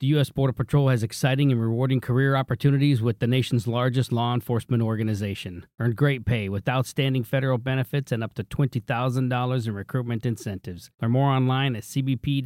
The U.S. Border Patrol has exciting and rewarding career opportunities with the nation's largest law enforcement organization. Earn great pay with outstanding federal benefits and up to $20,000 in recruitment incentives. Learn more online at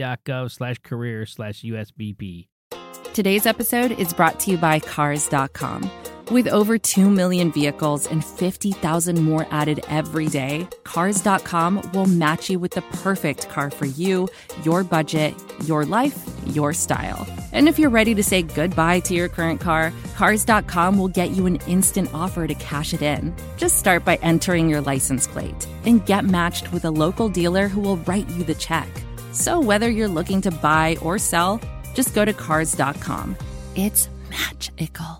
cbp.gov/career/USBP. Today's episode is brought to you by Cars.com. With over 2 million vehicles and 50,000 more added every day, Cars.com will match you with the perfect car for you, your budget, your life, your style. And if you're ready to say goodbye to your current car, Cars.com will get you an instant offer to cash it in. Just start by entering your license plate and get matched with a local dealer who will write you the check. So whether you're looking to buy or sell, just go to Cars.com. It's magical.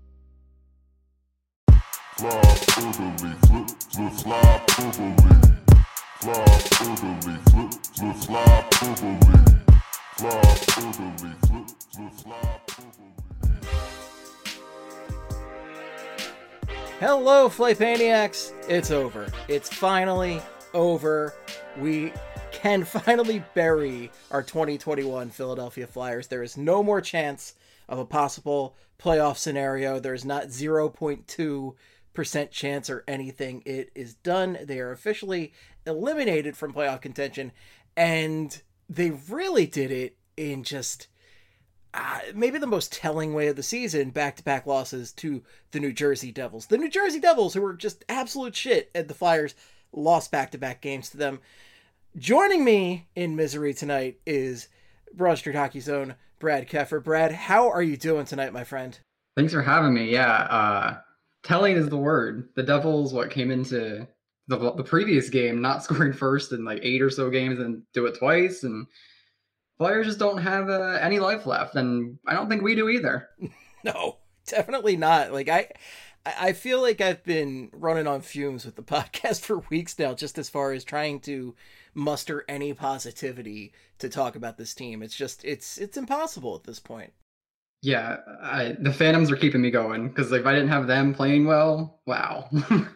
Hello, Flightmaniacs! It's over. It's finally over. We can finally bury our 2021 Philadelphia Flyers. There is no more chance of a possible playoff scenario. There's not 0.2% chance or anything. It is done. They are officially eliminated from playoff contention, and they really did it in just maybe the most telling way of the season. Back-to-back losses to the New Jersey Devils. The New Jersey Devils, who were just absolute shit, and the Flyers lost back-to-back games to them. Joining me in misery tonight is Broad Street Hockey Zone, Brad Keffer. Brad, how are you doing tonight, my friend? Thanks for having me. Yeah, telling is the word. The Devils, came into the previous game not scoring first in like 8 or so games and do it twice, and Flyers just don't have any life left, and I don't think we do either. No, definitely not. Like I feel like I've been running on fumes with the podcast for weeks now, just as far as trying to muster any positivity to talk about this team. It's just, it's impossible at this point. Yeah, the Phantoms are keeping me going, because if I didn't have them playing well, wow.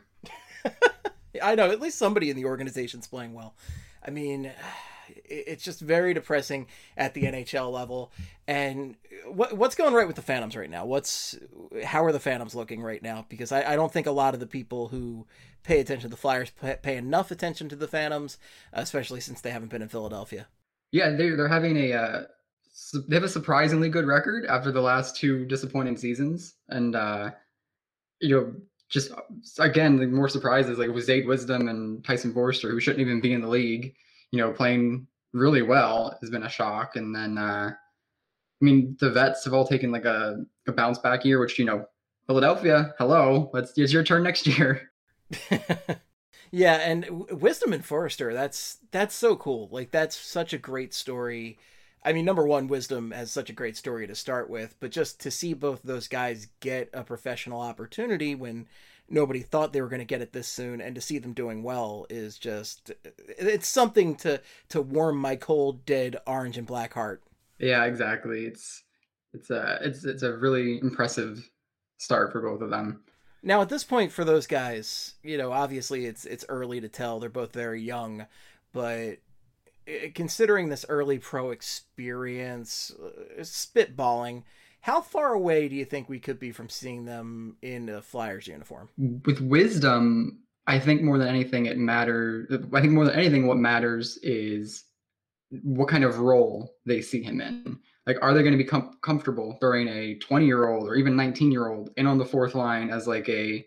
I know, at least somebody in the organization's playing well. I mean, it's just very depressing at the NHL level. And what's going right with the Phantoms right now? How are the Phantoms looking right now? Because I don't think a lot of the people who pay attention to the Flyers pay enough attention to the Phantoms, especially since they haven't been in Philadelphia. Yeah, they're having they have a surprisingly good record after the last 2 disappointing seasons, and just again, the more surprises, like with Zayde Wisdom and Tyson Forster, who shouldn't even be in the league, playing really well, has been a shock. And then I mean, the vets have all taken like a bounce back year, which Philadelphia, hello, it's your turn next year. Yeah, and Wisdom and Forrester, that's so cool. Like, that's such a great story. I mean, number one, Wisdom has such a great story to start with, but just to see both those guys get a professional opportunity when nobody thought they were going to get it this soon, and to see them doing well is just, it's something to warm my cold, dead orange and black heart. Yeah, exactly. It's a really impressive start for both of them. Now, at this point for those guys, obviously it's early to tell. They're both very young, but considering this early pro experience, spitballing, how far away do you think we could be from seeing them in a Flyers uniform? With Wisdom, I think more than anything what matters is what kind of role they see him in. Like, are they going to be comfortable throwing a 20-year-old or even 19-year-old in on the fourth line as like a,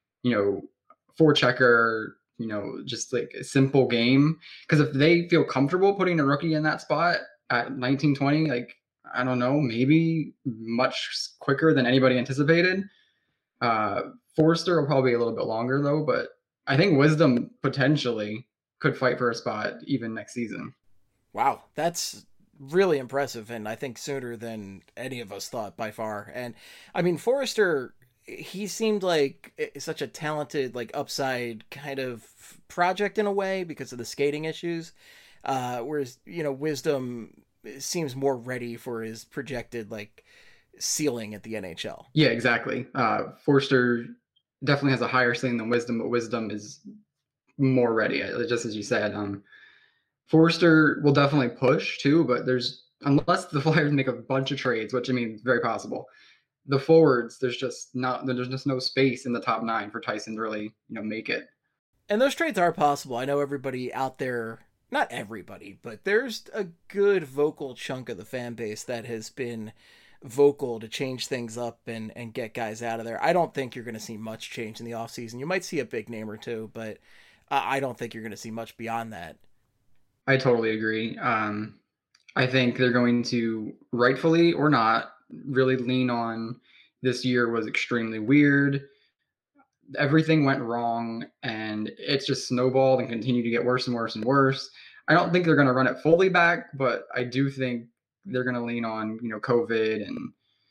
forechecker, just like a simple game? Because if they feel comfortable putting a rookie in that spot at 19-20, like, I don't know, maybe much quicker than anybody anticipated. Forrester will probably be a little bit longer though, but I think Wisdom potentially could fight for a spot even next season. Wow, that's really impressive, and I think sooner than any of us thought by far. And I mean, Forrester, he seemed like such a talented, like, upside kind of project in a way because of the skating issues, whereas Wisdom seems more ready for his projected like ceiling at the NHL. Yeah, exactly. Forster definitely has a higher ceiling than Wisdom, but Wisdom is more ready, just as you said. Forster will definitely push too, but there's unless the Flyers make a bunch of trades, which I mean, it's very possible. The forwards, there's just no space in the top 9 for Tyson to really, make it. And those trades are possible. I know everybody out there, not everybody, but there's a good vocal chunk of the fan base that has been vocal to change things up and get guys out of there. I don't think you're going to see much change in the offseason. You might see a big name or two, but I don't think you're going to see much beyond that. I totally agree. I think they're going to, rightfully or not, really lean on this year was extremely weird. Everything went wrong, and it's just snowballed and continued to get worse and worse and worse. I don't think they're going to run it fully back, but I do think they're going to lean on, COVID, and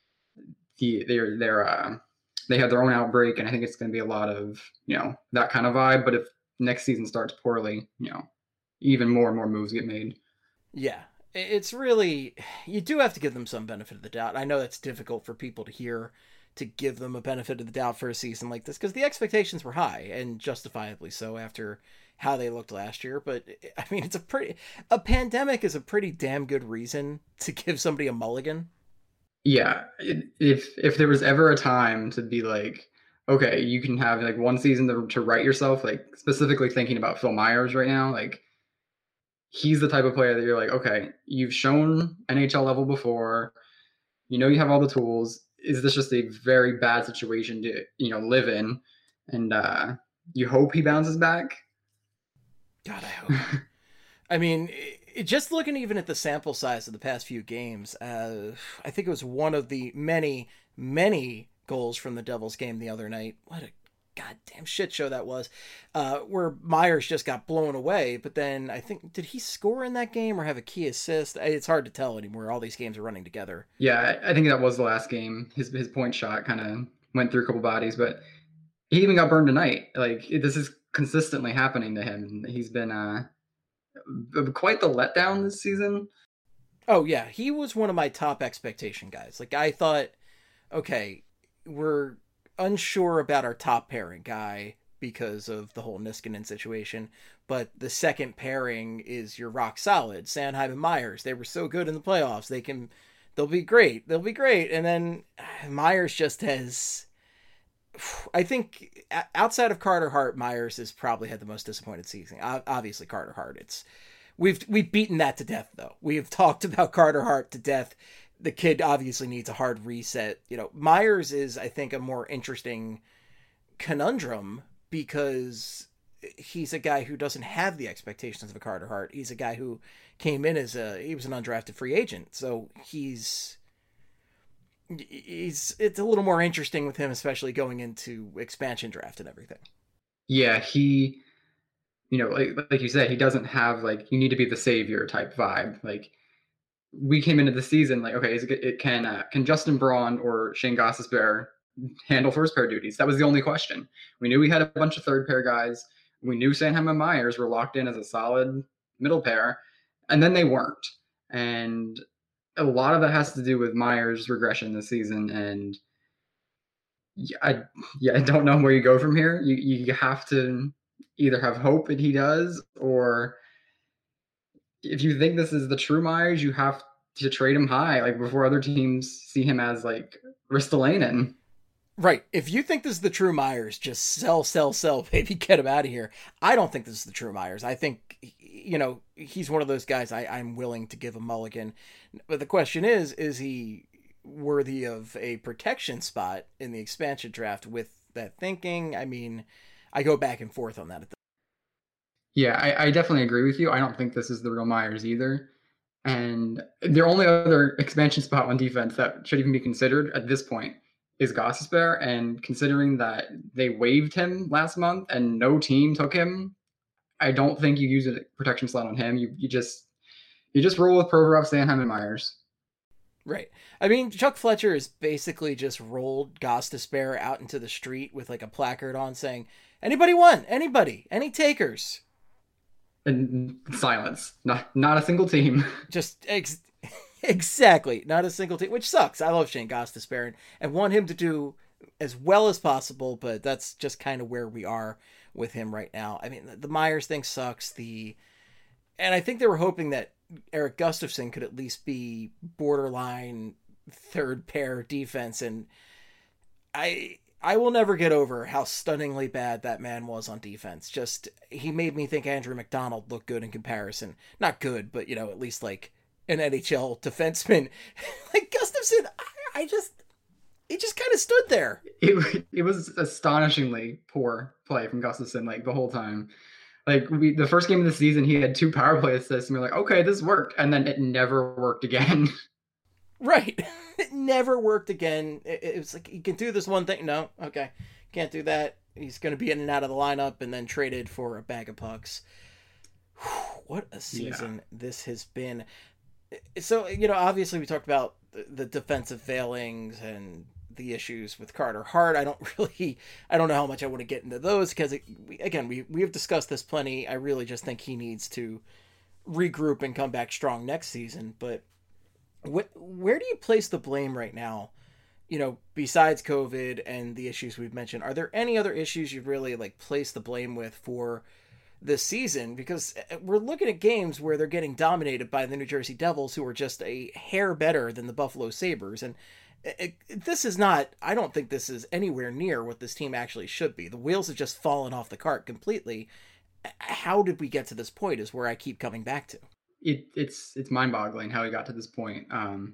they had their own outbreak, and I think it's going to be a lot of, that kind of vibe. But if next season starts poorly, even more and more moves get made. Yeah, it's really, you do have to give them some benefit of the doubt. I know that's difficult for people to hear, to give them a benefit of the doubt for a season like this, because the expectations were high, and justifiably so after how they looked last year. But I mean, a pandemic is a pretty damn good reason to give somebody a mulligan. Yeah, if there was ever a time to be like, okay, you can have like one season to write yourself, like specifically thinking about Phil Myers right now, like he's the type of player that you're like, okay, you've shown NHL level before, you have all the tools. Is this just a very bad situation to, live in? And you hope he bounces back? God, I hope. I mean, just looking even at the sample size of the past few games, I think it was one of the many, many goals from the Devils game the other night. What a goddamn shit show that was, where Myers just got blown away. But then I think, did he score in that game or have a key assist? It's hard to tell anymore. All these games are running together. Yeah, I think that was the last game. His point shot kind of went through a couple bodies, but he even got burned tonight. Like, this is consistently happening to him. He's been quite the letdown this season. Oh yeah, he was one of my top expectation guys. Like, I thought, okay, we're unsure about our top pairing guy because of the whole Niskanen situation, but the second pairing is your rock solid. Sanheim and Myers, they were so good in the playoffs. They'll be great. And then Myers just has, I think outside of Carter Hart, Myers has probably had the most disappointed season. Obviously Carter Hart, we've beaten that to death though. We have talked about Carter Hart to death. The kid obviously needs a hard reset. Myers is, I think, a more interesting conundrum because he's a guy who doesn't have the expectations of a Carter Hart. He's a guy who came in he was an undrafted free agent. So it's a little more interesting with him, especially going into expansion draft and everything. Yeah, he, like you said, he doesn't have like, you need to be the savior type vibe. Like, we came into the season like, okay, can Justin Braun or Shane Gostisbehere handle first pair duties? That was the only question. We knew we had a bunch of third pair guys. We knew Sanheim and Myers were locked in as a solid middle pair, and then they weren't. And a lot of that has to do with Myers' regression this season. And I don't know where you go from here. You have to either have hope that he does, or if you think this is the true Myers, you have to trade him high, like before other teams see him as like Ristolainen. Right. If you think this is the true Myers, just sell, baby, get him out of here. I don't think this is the true Myers. I think, he's one of those guys I'm willing to give a mulligan. But the question is he worthy of a protection spot in the expansion draft with that thinking? I mean, I go back and forth on that. Yeah, I definitely agree with you. I don't think this is the real Myers either. And the only other expansion spot on defense that should even be considered at this point is Gostisbehere. And considering that they waived him last month and no team took him, I don't think you use a protection slot on him. You just roll with Provorov, Sanheim, and Myers. Right. I mean, Chuck Fletcher has basically just rolled Gostisbehere out into the street with like a placard on saying, "Anybody want? Anybody? Any takers?" And silence. Not a single team. Just exactly. Not a single team, which sucks. I love Shane Gostisbehere and want him to do as well as possible, but that's just kind of where we are with him right now. I mean, the Myers thing sucks. And I think they were hoping that Eric Gustafson could at least be borderline third pair defense. And I will never get over how stunningly bad that man was on defense. Just, he made me think Andrew McDonald looked good in comparison. Not good, but, at least like an NHL defenseman. Like Gustafson, he just kind of stood there. It was astonishingly poor play from Gustafson, like the whole time. Like the first game of the season, he had 2 power play assists, and we're like, okay, this worked, and then it never worked again. Right. It never worked again. It was like, he can do this one thing. No, okay, can't do that. He's going to be in and out of the lineup and then traded for a bag of pucks. What a season this has been. So, obviously we talked about the defensive failings and the issues with Carter Hart. I don't know how much I want to get into those because, we have discussed this plenty. I really just think he needs to regroup and come back strong next season. But where do you place the blame right now? Besides COVID and the issues we've mentioned, are there any other issues you'd really place the blame with for this season? Because we're looking at games where they're getting dominated by the New Jersey Devils, who are just a hair better than the Buffalo Sabres. And this is not, I don't think this is anywhere near what this team actually should be. The wheels have just fallen off the cart completely. How did we get to this point is where I keep coming back to. It's mind-boggling how we got to this point.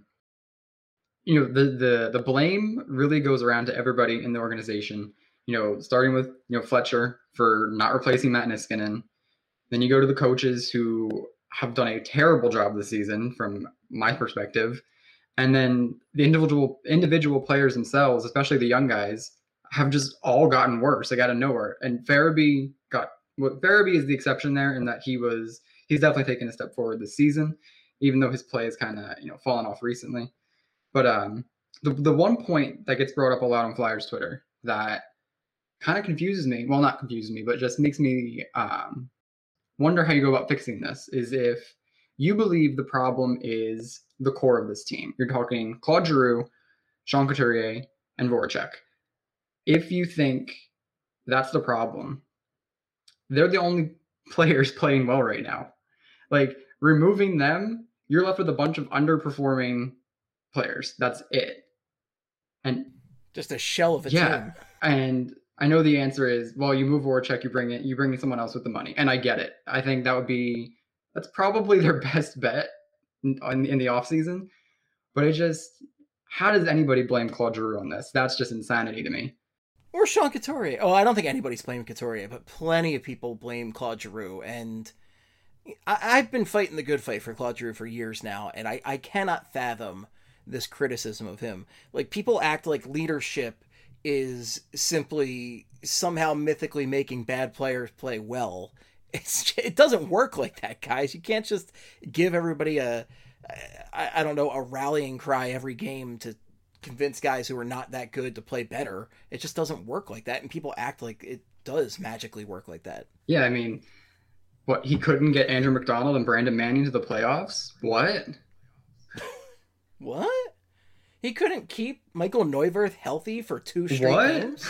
The blame really goes around to everybody in the organization. Starting with Fletcher for not replacing Matt Niskanen. Then you go to the coaches who have done a terrible job this season from my perspective. And then the individual players themselves, especially the young guys, have just all gotten worse. They got out of nowhere. And Farabee is the exception there in that he's definitely taken a step forward this season, even though his play has kind of fallen off recently. But the one point that gets brought up a lot on Flyers Twitter that kind of confuses me, well, not confuses me, but just makes me wonder how you go about fixing this, is if you believe the problem is the core of this team. You're talking Claude Giroux, Sean Couturier, and Voracek. If you think that's the problem, they're the only players playing well right now. Removing them, you're left with a bunch of underperforming players. That's it. And just a shell of a team. And I know the answer is, well, you move Voracek, you bring in someone else with the money. And I get it. I think that's probably their best bet in the offseason. But how does anybody blame Claude Giroux on this? That's just insanity to me. Or Sean Couturier. Oh, I don't think anybody's blaming Couturier, but plenty of people blame Claude Giroux. And I've been fighting the good fight for Claude Giroux for years now, and I cannot fathom this criticism of him. People act like leadership is simply somehow mythically making bad players play well. It doesn't work like that, guys. You can't just give everybody a rallying cry every game to convince guys who are not that good to play better. It just doesn't work like that, and people act like it does magically work like that. Yeah, I mean, what, he couldn't get Andrew McDonald and Brandon Manning to the playoffs? What? What? He couldn't keep Michael Neuwirth healthy for 2 straight games?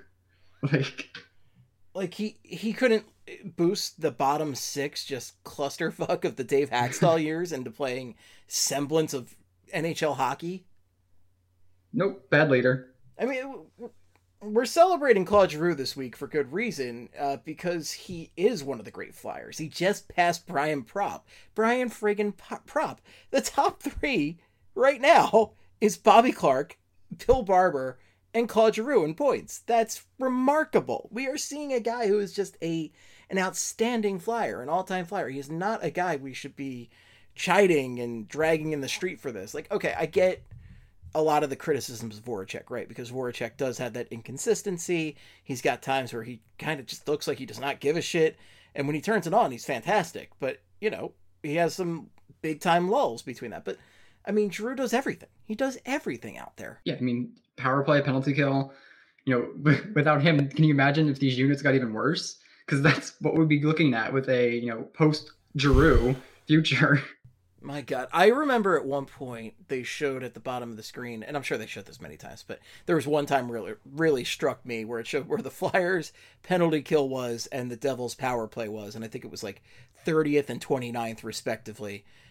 he couldn't boost the bottom 6 just clusterfuck of the Dave Haxtell years into playing semblance of NHL hockey? Nope, bad leader. I mean, we're celebrating Claude Giroux this week for good reason, because he is one of the great Flyers. He just passed Brian Propp. Brian friggin' Propp. The top 3 right now is Bobby Clarke, Bill Barber, and Claude Giroux in points. That's remarkable. We are seeing a guy who is just an outstanding Flyer, an all-time Flyer. He is not a guy we should be chiding and dragging in the street for this. Okay, I get a lot of the criticisms of Voracek, right? Because Voracek does have that inconsistency. He's got times where he kind of just looks like he does not give a shit. And when he turns it on, he's fantastic. But, he has some big-time lulls between that. But, I mean, Giroux does everything. He does everything out there. Yeah, I mean, power play, penalty kill. Without him, can you imagine if these units got even worse? Because that's what we'd be looking at with a, post-Giroux future. My God. I remember at one point they showed at the bottom of the screen, and I'm sure they showed this many times, but there was one time really struck me where it showed where the Flyers penalty kill was and the Devils power play was, and I think it was 30th and 29th respectively.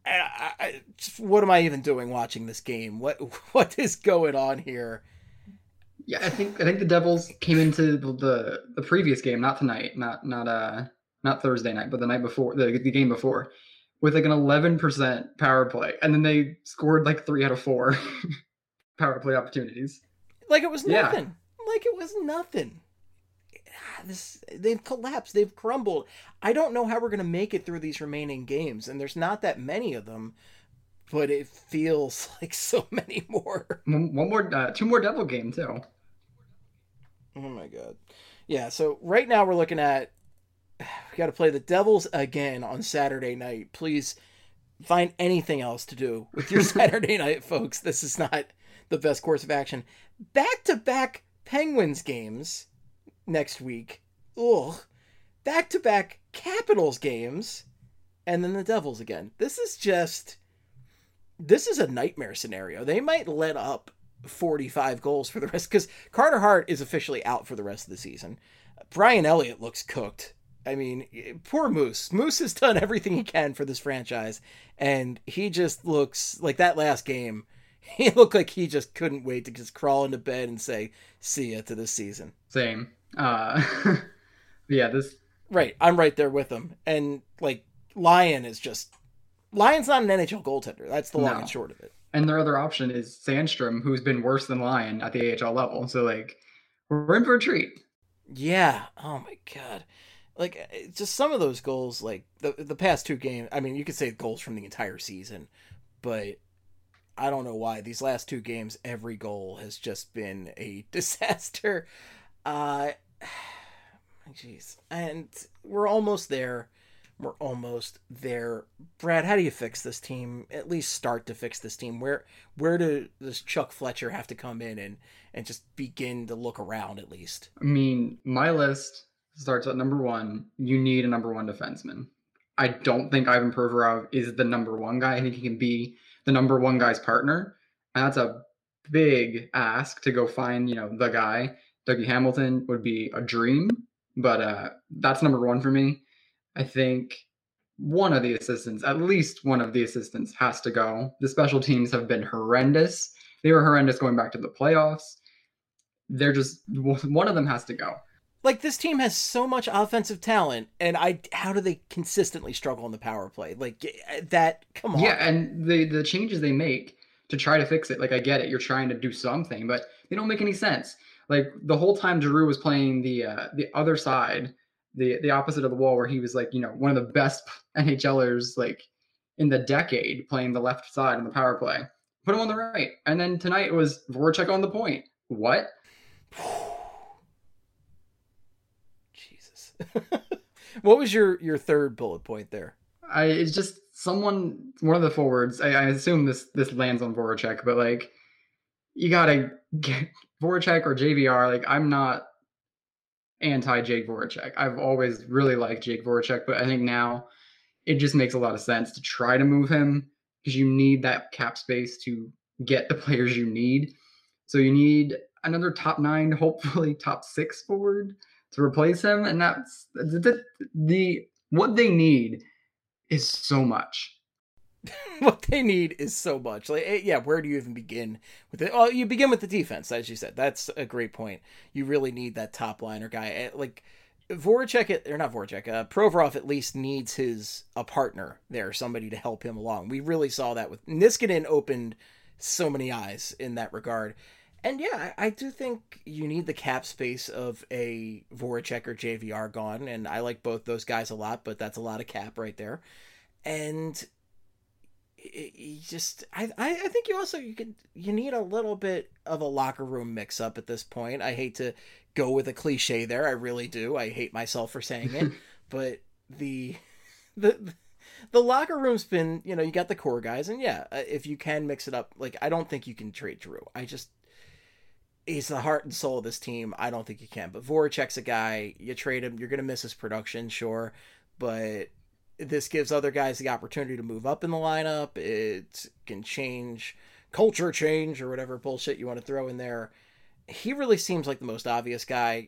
what am I even doing watching this game? What is going on here? Yeah, I think the Devils came into the previous game, not tonight, not Thursday night, but the night before, the game before, with like an 11% power play, and then they scored like 3 out of 4 power play opportunities. Like it was nothing. Yeah. Like it was nothing. They've collapsed. They've crumbled. I don't know how we're gonna make it through these remaining games, and there's not that many of them, but it feels like so many more. One more, 2 more Devil game too. Oh my god. Yeah, so right now we're looking at we got to play the Devils again on Saturday night. Please find anything else to do with your Saturday night, folks. This is not the best course of action. Back-to-back Penguins games next week. Ugh. Back-to-back Capitals games. And then the Devils again. This is a nightmare scenario. They might let up 45 goals for the rest, because Carter Hart is officially out for the rest of the season. Brian Elliott looks cooked. I mean, poor Moose. Moose has done everything he can for this franchise, and he just looks like that last game. He looked like he just couldn't wait to just crawl into bed and say, see ya to this season. Same. Yeah, this... Right, I'm right there with him. And, like, Lion's not an NHL goaltender. That's the long and short of it. And their other option is Sandstrom, who's been worse than Lyon at the AHL level. So, like, we're in for a treat. Yeah. Oh, my God. Like, just some of those goals, like, the past 2 games, I mean, you could say goals from the entire season, but I don't know why. These last 2 games, every goal has just been a disaster. Jeez. And we're almost there. We're almost there. Brad, how do you fix this team? At least start to fix this team. Where does Chuck Fletcher have to come in and just begin to look around at least? I mean, my list starts at number 1. You need a number 1 defenseman. I don't think Ivan Provorov is the number 1 guy. I think he can be the number 1 guy's partner. And that's a big ask to go find, the guy. Dougie Hamilton would be a dream, but that's number 1 for me. I think one of the assistants, at least one of the assistants, has to go. The special teams have been horrendous. They were horrendous going back to the playoffs. They're just, one of them has to go. Like, this team has so much offensive talent, and how do they consistently struggle in the power play? Like, that, come on. Yeah, and the changes they make to try to fix it, like, I get it, you're trying to do something, but they don't make any sense. Like, the whole time Giroux was playing the other side, the opposite of the wall, where he was, like, one of the best NHLers, like, in the decade, playing the left side on the power play. Put him on the right. And then tonight it was Voracek on the point. What? Jesus. What was your third bullet point there? It's just one of the forwards. I assume this lands on Voracek, but, like, you gotta get Voracek or JVR. Like, I'm not anti-Jake Voracek. I've always really liked Jake Voracek, but I think now it just makes a lot of sense to try to move him, because you need that cap space to get the players you need. So you need another top 9, hopefully top 6 forward to replace him, and that's what they need is so much. What they need is so much. Like, yeah, where do you even begin with it? Well, you begin with the defense, as you said. That's a great point. You really need that top liner guy. Like, Provorov at least needs a partner there, somebody to help him along. We really saw that with Niskanen, opened so many eyes in that regard. And yeah, I do think you need the cap space of a Voracek or JVR gone, and I like both those guys a lot, but that's a lot of cap right there. And I think you need a little bit of a locker room mix up at this point. I hate to go with a cliche there. I really do. I hate myself for saying it, but the locker room's been, you got the core guys, and yeah, if you can mix it up, like, I don't think you can trade Giroux. He's the heart and soul of this team. I don't think you can, but Voracek's a guy, you trade him, you're going to miss his production, sure, but this gives other guys the opportunity to move up in the lineup. It can change, culture change, or whatever bullshit you want to throw in there. He really seems like the most obvious guy.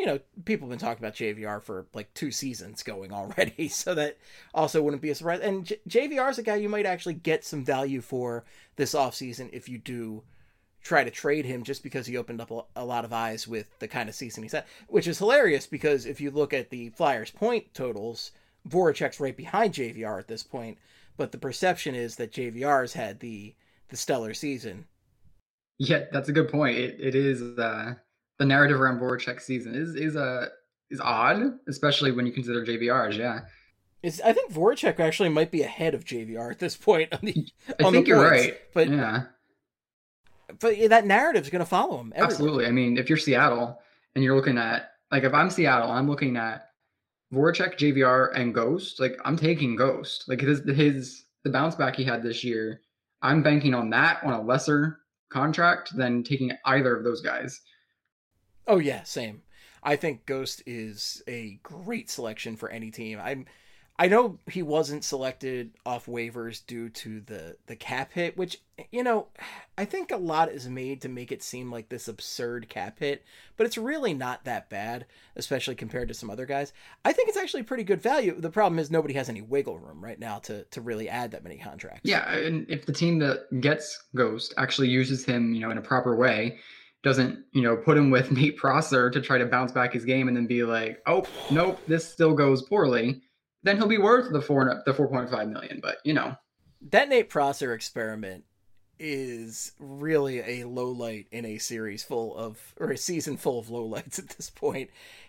people have been talking about JVR for like 2 seasons going already, so that also wouldn't be a surprise. And JVR is a guy you might actually get some value for this offseason if you do try to trade him, just because he opened up a lot of eyes with the kind of season he's had, which is hilarious because if you look at the Flyers point totals, Voracek's right behind JVR at this point, but the perception is that JVR's had the stellar season. Yeah, that's a good point. It is the narrative around Voracek's season is odd, especially when you consider JVR's. Yeah, I think Voracek actually might be ahead of JVR at this point on the. I think you're right, but yeah. But that narrative's going to follow him everywhere. Absolutely. I mean, if you're Seattle and you're looking at, like, if I'm Seattle, I'm looking at Voracek, JVR, and Ghost. Like, I'm taking Ghost. Like, the bounce back he had this year, I'm banking on that on a lesser contract than taking either of those guys. Oh yeah, same. I think Ghost is a great selection for any team. I know he wasn't selected off waivers due to the cap hit, which, I think a lot is made to make it seem like this absurd cap hit, but it's really not that bad, especially compared to some other guys. I think it's actually pretty good value. The problem is nobody has any wiggle room right now to really add that many contracts. Yeah, and if the team that gets Ghost actually uses him, in a proper way, doesn't, put him with Nate Prosser to try to bounce back his game and then be like, oh, nope, this still goes poorly, then he'll be worth the 4.5 million. But that Nate Prosser experiment is really a low light in a season full of lowlights at this point.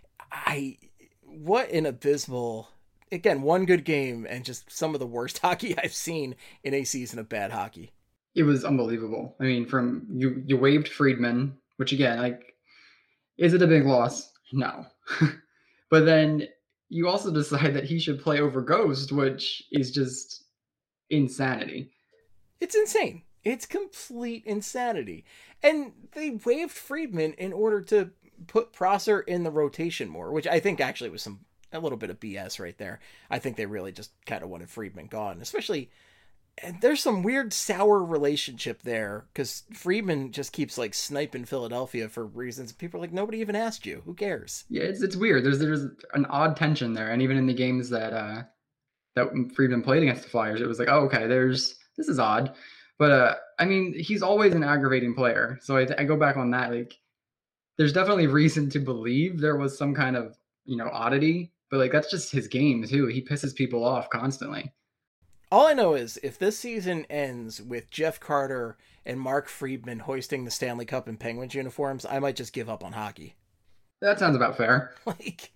What an abysmal, again, one good game and just some of the worst hockey I've seen in a season of bad hockey. It was unbelievable. I mean, from you waived Friedman, which again, like, is it a big loss? No. But then you also decide that he should play over Ghost, which is just insanity. It's insane. It's complete insanity. And they waived Friedman in order to put Prosser in the rotation more, which I think actually was a little bit of BS right there. I think they really just kind of wanted Friedman gone, especially. And there's some weird sour relationship there because Friedman just keeps like sniping Philadelphia for reasons people are like, nobody even asked you. Who cares? Yeah, it's weird. There's an odd tension there, and even in the games that Friedman played against the Flyers, it was like, oh, okay, this is odd. But I mean, he's always an aggravating player, so I go back on that. Like, there's definitely reason to believe there was some kind of oddity, but like that's just his game too. He pisses people off constantly. All I know is if this season ends with Jeff Carter and Mark Friedman hoisting the Stanley Cup in Penguins uniforms, I might just give up on hockey. That sounds about fair. Like,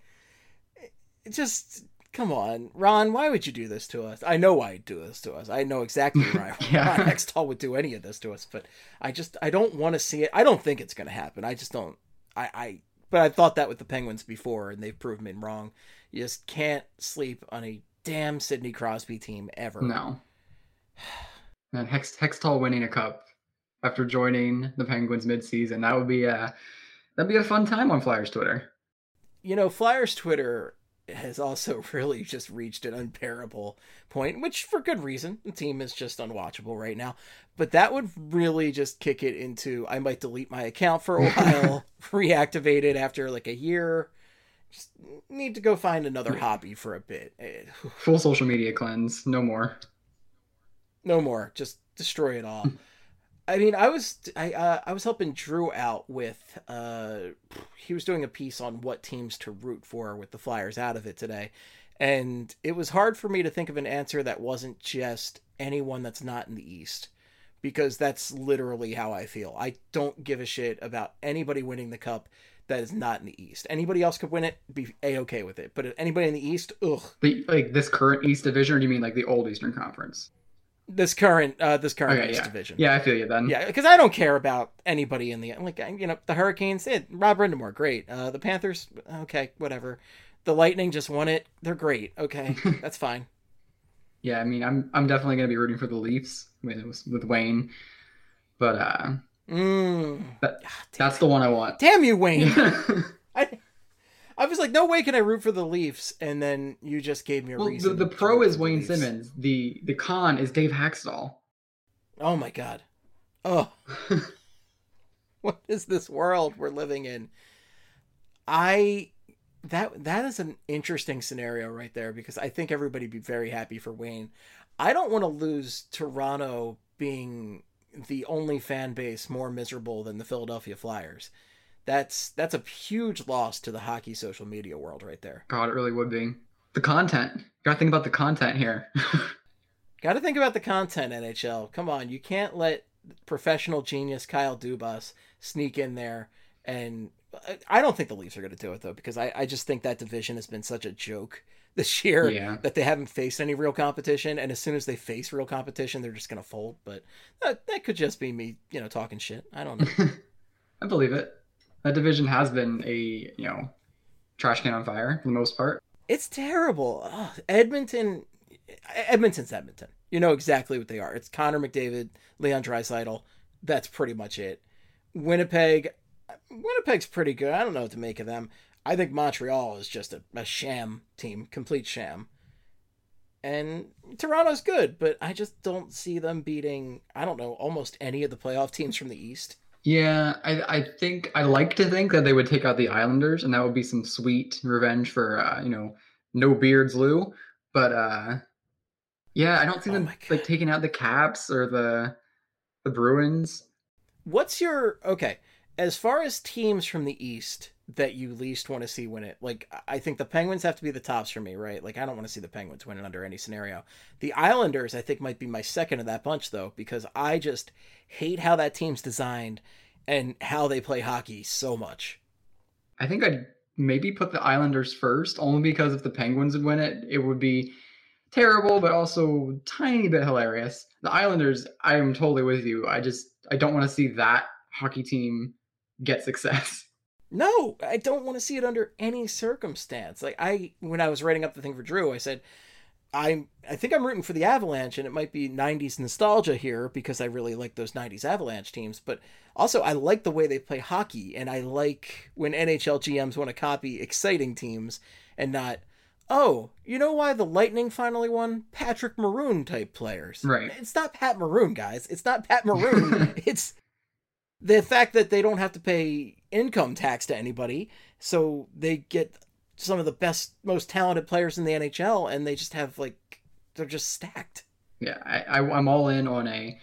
just, come on. Ron, why would you do this to us? I know why you'd do this to us. I know exactly why Ron Hextall would do any of this to us, but I don't want to see it. I don't think it's going to happen. I just don't. But I thought that with the Penguins before, and they've proven me wrong. You just can't sleep on a damn Sidney Crosby team ever. No. And Hextall winning a cup after joining the Penguins mid-season, that'd be a fun time on Flyers Twitter. Flyers Twitter has also really just reached an unbearable point, which for good reason. The team is just unwatchable right now. But that would really just kick it into, I might delete my account for a while, reactivate it after like a year. Just need to go find another hobby for a bit. Full social media cleanse. No more. No more. Just destroy it all. I mean, I was helping Drew out with he was doing a piece on what teams to root for with the Flyers out of it today. And it was hard for me to think of an answer that wasn't just anyone that's not in the East, because that's literally how I feel. I don't give a shit about anybody winning the cup that is not in the East. Anybody else could win it, be A-okay with it. But anybody in the East, ugh. Like this current East Division, or do you mean like the old Eastern Conference? This current East Division. Yeah, I feel you then. Yeah, because I don't care about anybody in the, like, the Hurricanes, Rob Brindamore, great. The Panthers, okay, whatever. The Lightning just won it. They're great. Okay, that's fine. Yeah, I mean, I'm definitely going to be rooting for the Leafs with Wayne. But that's the one I want. Damn you, Wayne. I was like, no way can I root for the Leafs, and then you just gave me a reason. The pro is Wayne Simmons. The con is Dave Haxtell. Oh my god. Oh. What is this world we're living in? That is an interesting scenario right there, because I think everybody would be very happy for Wayne. I don't want to lose Toronto being the only fan base more miserable than the Philadelphia Flyers. That's a huge loss to the hockey social media world right there. God, it really would be. The content. Gotta think about the content here. Gotta think about the content, NHL. Come on, you can't let professional genius Kyle Dubas sneak in there. And I don't think the Leafs are going to do it, though, because I just think that division has been such a joke this year that they haven't faced any real competition. And as soon as they face real competition, they're just going to fold. But that could just be me, talking shit. I don't know. I believe it. That division has been a, trash can on fire for the most part. It's terrible. Oh, Edmonton's Edmonton. You know exactly what they are. It's Connor McDavid, Leon Draisaitl. That's pretty much it. Winnipeg's pretty good. I don't know what to make of them. I think Montreal is just a sham team, complete sham. And Toronto's good, but I just don't see them beating, I don't know, almost any of the playoff teams from the East. Yeah, I like to think that they would take out the Islanders, and that would be some sweet revenge for no beards Lou. But yeah, I don't see them like taking out the Caps or the Bruins. What's your as far as teams from the East that you least want to see win it? Like, I think the Penguins have to be the tops for me, right? Like, I don't want to see the Penguins win it under any scenario. The Islanders, I think, might be my second of that bunch, though, because I just hate how that team's designed and how they play hockey so much. I think I'd maybe put the Islanders first, only because if the Penguins would win it, it would be terrible, but also tiny bit hilarious. The Islanders, I am totally with you. I don't want to see that hockey team get success. No, I don't want to see it under any circumstance. Like, when I was writing up the thing for Drew, I said, I think I'm rooting for the Avalanche, and it might be 90s nostalgia here because I really like those 90s Avalanche teams, but also I like the way they play hockey, and I like when NHL GMs want to copy exciting teams and not, oh, you know why the Lightning finally won? Patrick Maroon type players. Right. It's not Pat Maroon, guys. It's not Pat Maroon. It's the fact that they don't have to pay income tax to anybody, so they get some of the best, most talented players in the NHL, and they just have they're just stacked. Yeah, I'm all in on a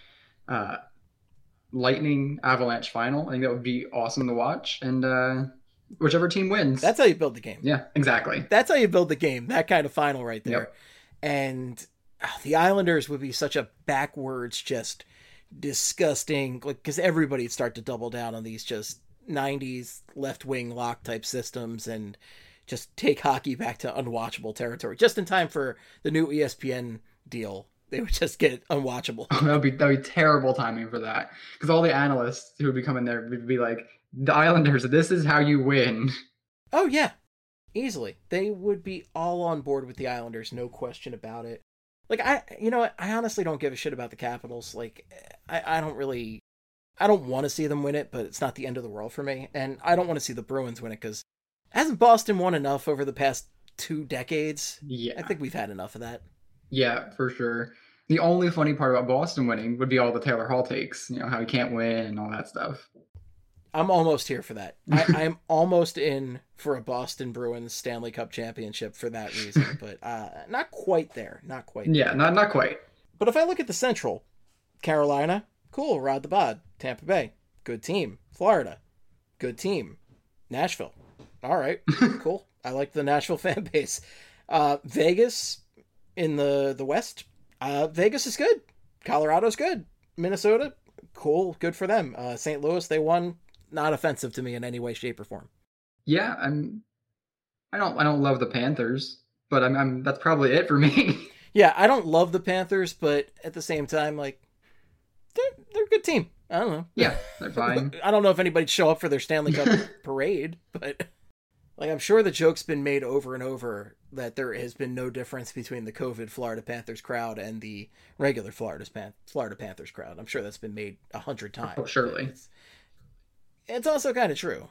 Lightning Avalanche final. I think that would be awesome to watch, and whichever team wins. That's how you build the game. Yeah, exactly. That's how you build the game. That kind of final right there. Yep. And the Islanders would be such a backwards, just disgusting, because everybody'd start to double down on these just 90s left-wing lock type systems and just take hockey back to unwatchable territory just in time for the new ESPN deal. They would just get unwatchable. That'd be terrible timing for that, because all the analysts who would be coming there would be like, the Islanders, this is how you win. Oh yeah, easily. They would be all on board with the Islanders, no question about it. Like, I honestly don't give a shit about the Capitals. Like, I don't want to see them win it, but it's not the end of the world for me. And I don't want to see the Bruins win it, because hasn't Boston won enough over the past 2 decades? Yeah. I think we've had enough of that. Yeah, for sure. The only funny part about Boston winning would be all the Taylor Hall takes, how he can't win and all that stuff. I'm almost here for that. I'm almost in for a Boston Bruins Stanley Cup championship for that reason, but not quite there. Not quite. Yeah, not quite. But if I look at the Central, Carolina, cool, Rod the Bod. Tampa Bay, good team. Florida, good team. Nashville, all right, cool. I like the Nashville fan base. Vegas in the West, Vegas is good. Colorado's good. Minnesota, cool, good for them. St. Louis, they won. Not offensive to me in any way, shape, or form. Yeah, I don't love the Panthers, but that's probably it for me. Yeah, I don't love the Panthers, but at the same time, like, they're a good team. I don't know. Yeah, they're fine. I don't know if anybody'd show up for their Stanley Cup parade, but like, I'm sure the joke's been made over and over that there has been no difference between the COVID Florida Panthers crowd and the regular Florida Panthers crowd. I'm sure that's been made 100 times. Oh, surely. It's also kind of true.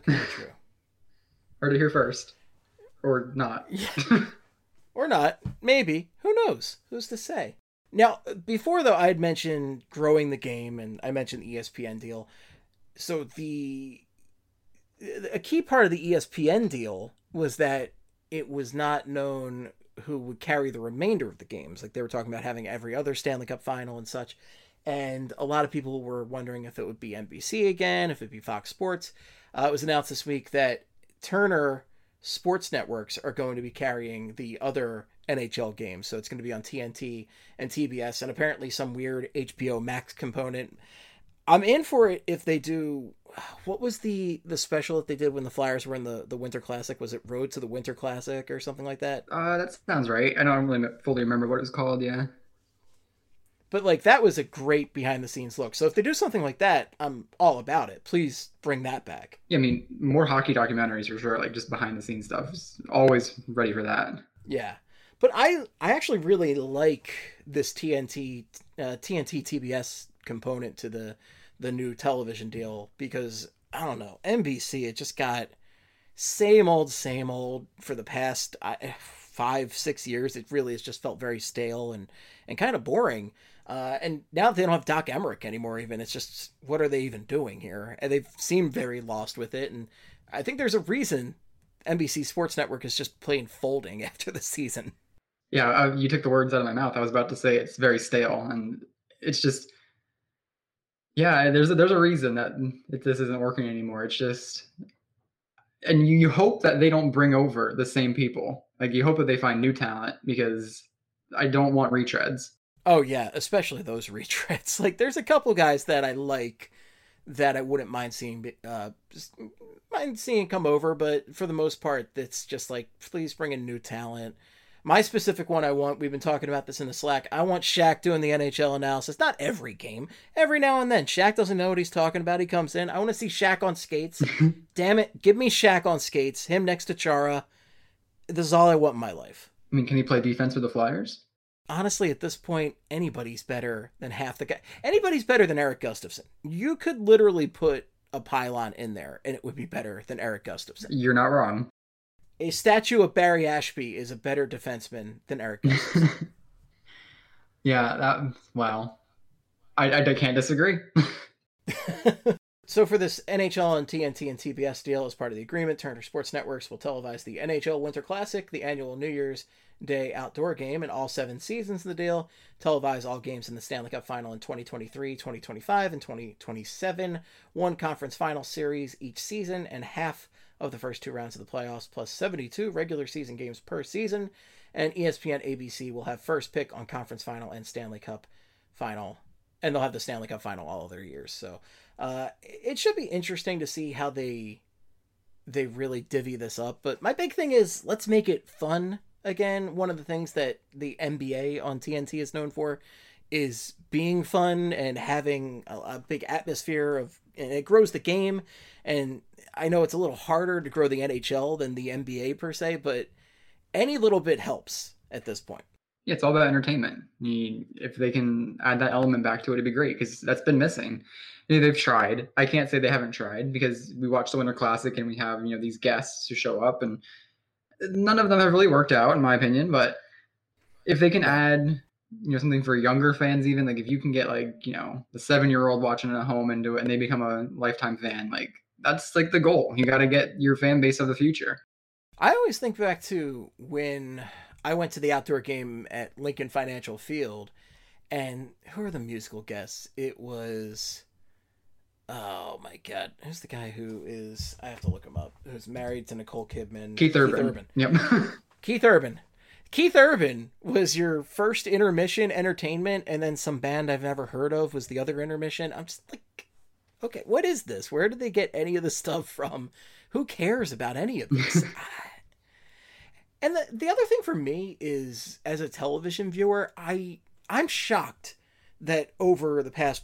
Heard it here first. Or not. Yeah. Or not. Maybe. Who knows? Who's to say? Now, before, though, I had mentioned growing the game, and I mentioned the ESPN deal. So the a key part of the ESPN deal was that it was not known who would carry the remainder of the games. Like they were talking about having every other Stanley Cup final and such. And a lot of people were wondering if it would be NBC again, if it'd be Fox Sports. It was announced this week that Turner Sports Networks are going to be carrying the other NHL games. So it's going to be on TNT and TBS, and apparently some weird HBO Max component. I'm in for it if they do. What was the special that they did when the Flyers were in the Winter Classic? Was it Road to the Winter Classic or something like that? That sounds right. I don't really fully remember what it was called. Yeah. But like that was a great behind the scenes look. So if they do something like that, I'm all about it. Please bring that back. Yeah, I mean, more hockey documentaries for sure. Like just behind the scenes stuff. Always ready for that. Yeah, but I actually really like this TNT TBS component to the new television deal because I don't know, NBC, it just got same old for the past 5-6 years. It really has just felt very stale and kind of boring. And now they don't have Doc Emmerich anymore even. It's just, what are they even doing here? And they've seemed very lost with it. And I think there's a reason NBC Sports Network is just plain folding after the season. Yeah, you took the words out of my mouth. I was about to say it's very stale. And it's just, yeah, there's a reason that this isn't working anymore. It's just, and you hope that they don't bring over the same people. Like you hope that they find new talent because I don't want retreads. Oh yeah, especially those retreads. Like there's a couple guys that I like that I wouldn't mind seeing come over, but for the most part, it's just like, please bring in new talent. My specific one I want, we've been talking about this in the Slack, I want Shaq doing the NHL analysis. Not every game. Every now and then. Shaq doesn't know what he's talking about. He comes in. I want to see Shaq on skates. Damn it. Give me Shaq on skates. Him next to Chara. This is all I want in my life. I mean, can he play defense with the Flyers? Honestly, at this point, anybody's better than half the guy. Anybody's better than Erik Gustafsson. You could literally put a pylon in there and it would be better than Erik Gustafsson. You're not wrong. A statue of Barry Ashby is a better defenseman than Erik Gustafsson. Yeah, wow. I can't disagree. So for this NHL and TNT and TBS deal, as part of the agreement, Turner Sports Networks will televise the NHL Winter Classic, the annual New Year's Day outdoor game, and all 7 seasons of the deal. Televise all games in the Stanley Cup Final in 2023, 2025, and 2027. 1 conference final series each season, and half of the first 2 rounds of the playoffs, plus 72 regular season games per season. And ESPN ABC will have first pick on conference final and Stanley Cup Final. And they'll have the Stanley Cup Final all of their years. So it should be interesting to see how they really divvy this up. But my big thing is, let's make it fun again. One of the things that the NBA on TNT is known for is being fun and having a big atmosphere and it grows the game. And I know it's a little harder to grow the NHL than the NBA per se, but any little bit helps at this point. Yeah, it's all about entertainment. If they can add that element back to it, it'd be great because that's been missing. They've tried. I can't say they haven't tried because we watch the Winter Classic and we have these guests who show up and none of them have really worked out in my opinion. But if they can add something for younger fans, even like if you can get the 7-year-old watching at home and do it and they become a lifetime fan, like that's like the goal. You got to get your fan base of the future. I always think back to when I went to the outdoor game at Lincoln Financial Field, and who are the musical guests? It was, oh my God, who's the guy who is, I have to look him up, who's married to Nicole Kidman? Keith Urban. Yep. Keith Urban. Keith Urban was your first intermission entertainment, and then some band I've never heard of was the other intermission. I'm just like, okay, what is this? Where did they get any of this stuff from? Who cares about any of this? And the other thing for me is, as a television viewer, I'm shocked that over the past,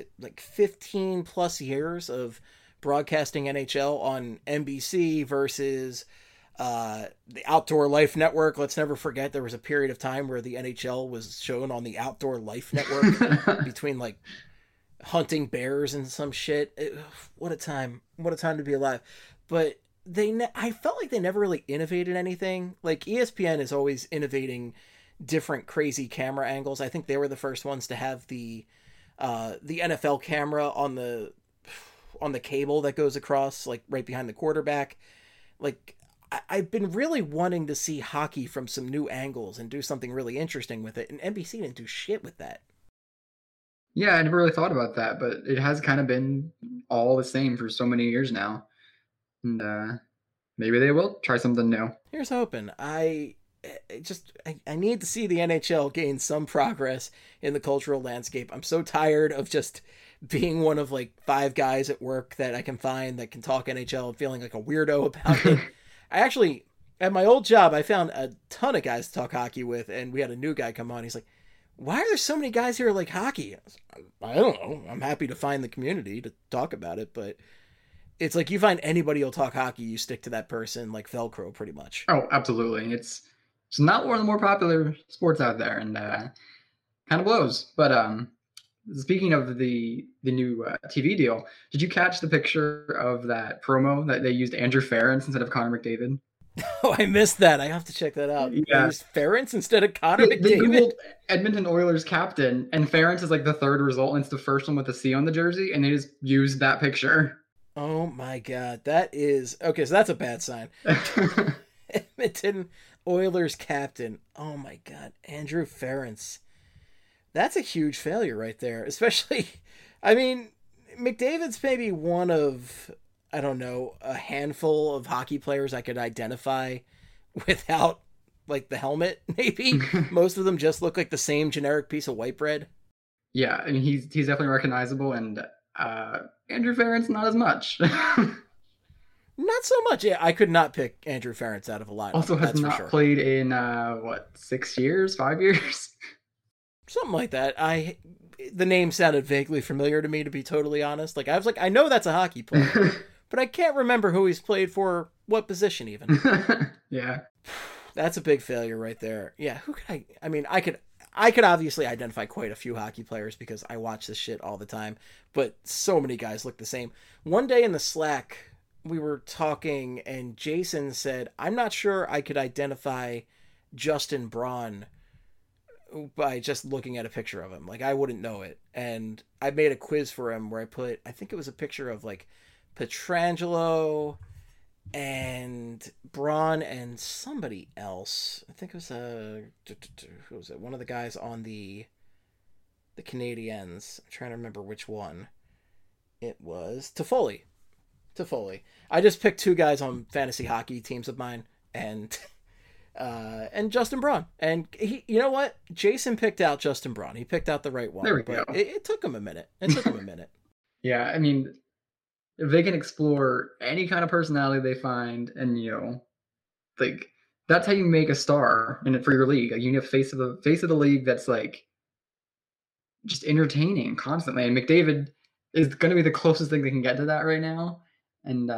15 plus years of broadcasting NHL on NBC versus the Outdoor Life Network. Let's never forget there was a period of time where the NHL was shown on the Outdoor Life Network between hunting bears and some shit. What a time to be alive. But I felt like they never really innovated anything. Like ESPN is always innovating different crazy camera angles. I think they were the first ones to have the NFL camera on on the cable that goes across, like right behind the quarterback. Like, I've been really wanting to see hockey from some new angles and do something really interesting with it, and NBC didn't do shit with that. Yeah, I never really thought about that, but it has kind of been all the same for so many years now. And maybe they will try something new. Here's hoping. I need to see the NHL gain some progress in the cultural landscape. I'm so tired of just being one of like 5 guys at work that I can find that can talk NHL and feeling like a weirdo about it. I actually, at my old job, I found a ton of guys to talk hockey with, and we had a new guy come on. He's like, why are there so many guys here like hockey? I don't know. I'm happy to find the community to talk about it, but it's like you find anybody who'll talk hockey, you stick to that person like Velcro pretty much. Oh, absolutely. It's not one of the more popular sports out there, and kind of blows. But speaking of the new TV deal, did you catch the picture of that promo that they used Andrew Ference instead of Connor McDavid? Oh, I missed that. I have to check that out. Yeah. They used Ference instead of Connor McDavid. They Googled Edmonton Oilers captain, and Ference is like the 3rd result, and it's the first one with a C on the jersey, and they just used that picture. Oh my God. That is... Okay, so that's a bad sign. Edmonton Oilers captain. Oh my God. Andrew Ference. That's a huge failure right there. Especially, I mean, McDavid's maybe one of, I don't know, a handful of hockey players I could identify without, like, the helmet, maybe. Most of them just look like the same generic piece of white bread. Yeah, I mean, he's definitely recognizable, and Andrew Ference, not as much. Not so much. Yeah, I could not pick Andrew Ference out of a lineup. Also has not played in, 6 years, 5 years? Something like that. The name sounded vaguely familiar to me, to be totally honest. Like, I was like, I know that's a hockey player, but I can't remember who he's played for, what position even. Yeah. That's a big failure right there. Yeah, who could I mean, I could obviously identify quite a few hockey players because I watch this shit all the time, but so many guys look the same. One day in the Slack, we were talking and Jason said, I'm not sure I could identify Justin Braun by just looking at a picture of him. Like, I wouldn't know it. And I made a quiz for him where I think it was a picture of like Pietrangelo and Braun and somebody else. I think it was who was it? One of the guys on the Canadiens. I'm trying to remember which one. It was Toffoli. I just picked 2 guys on fantasy hockey teams of mine, and Justin Braun. And he, you know what? Jason picked out Justin Braun. He picked out the right one. There we go. It took him a minute. Yeah, I mean, if they can explore any kind of personality they find, and like, that's how you make a star in it for your league. Like, you need a face of the league that's like just entertaining constantly. And McDavid is going to be the closest thing they can get to that right now. And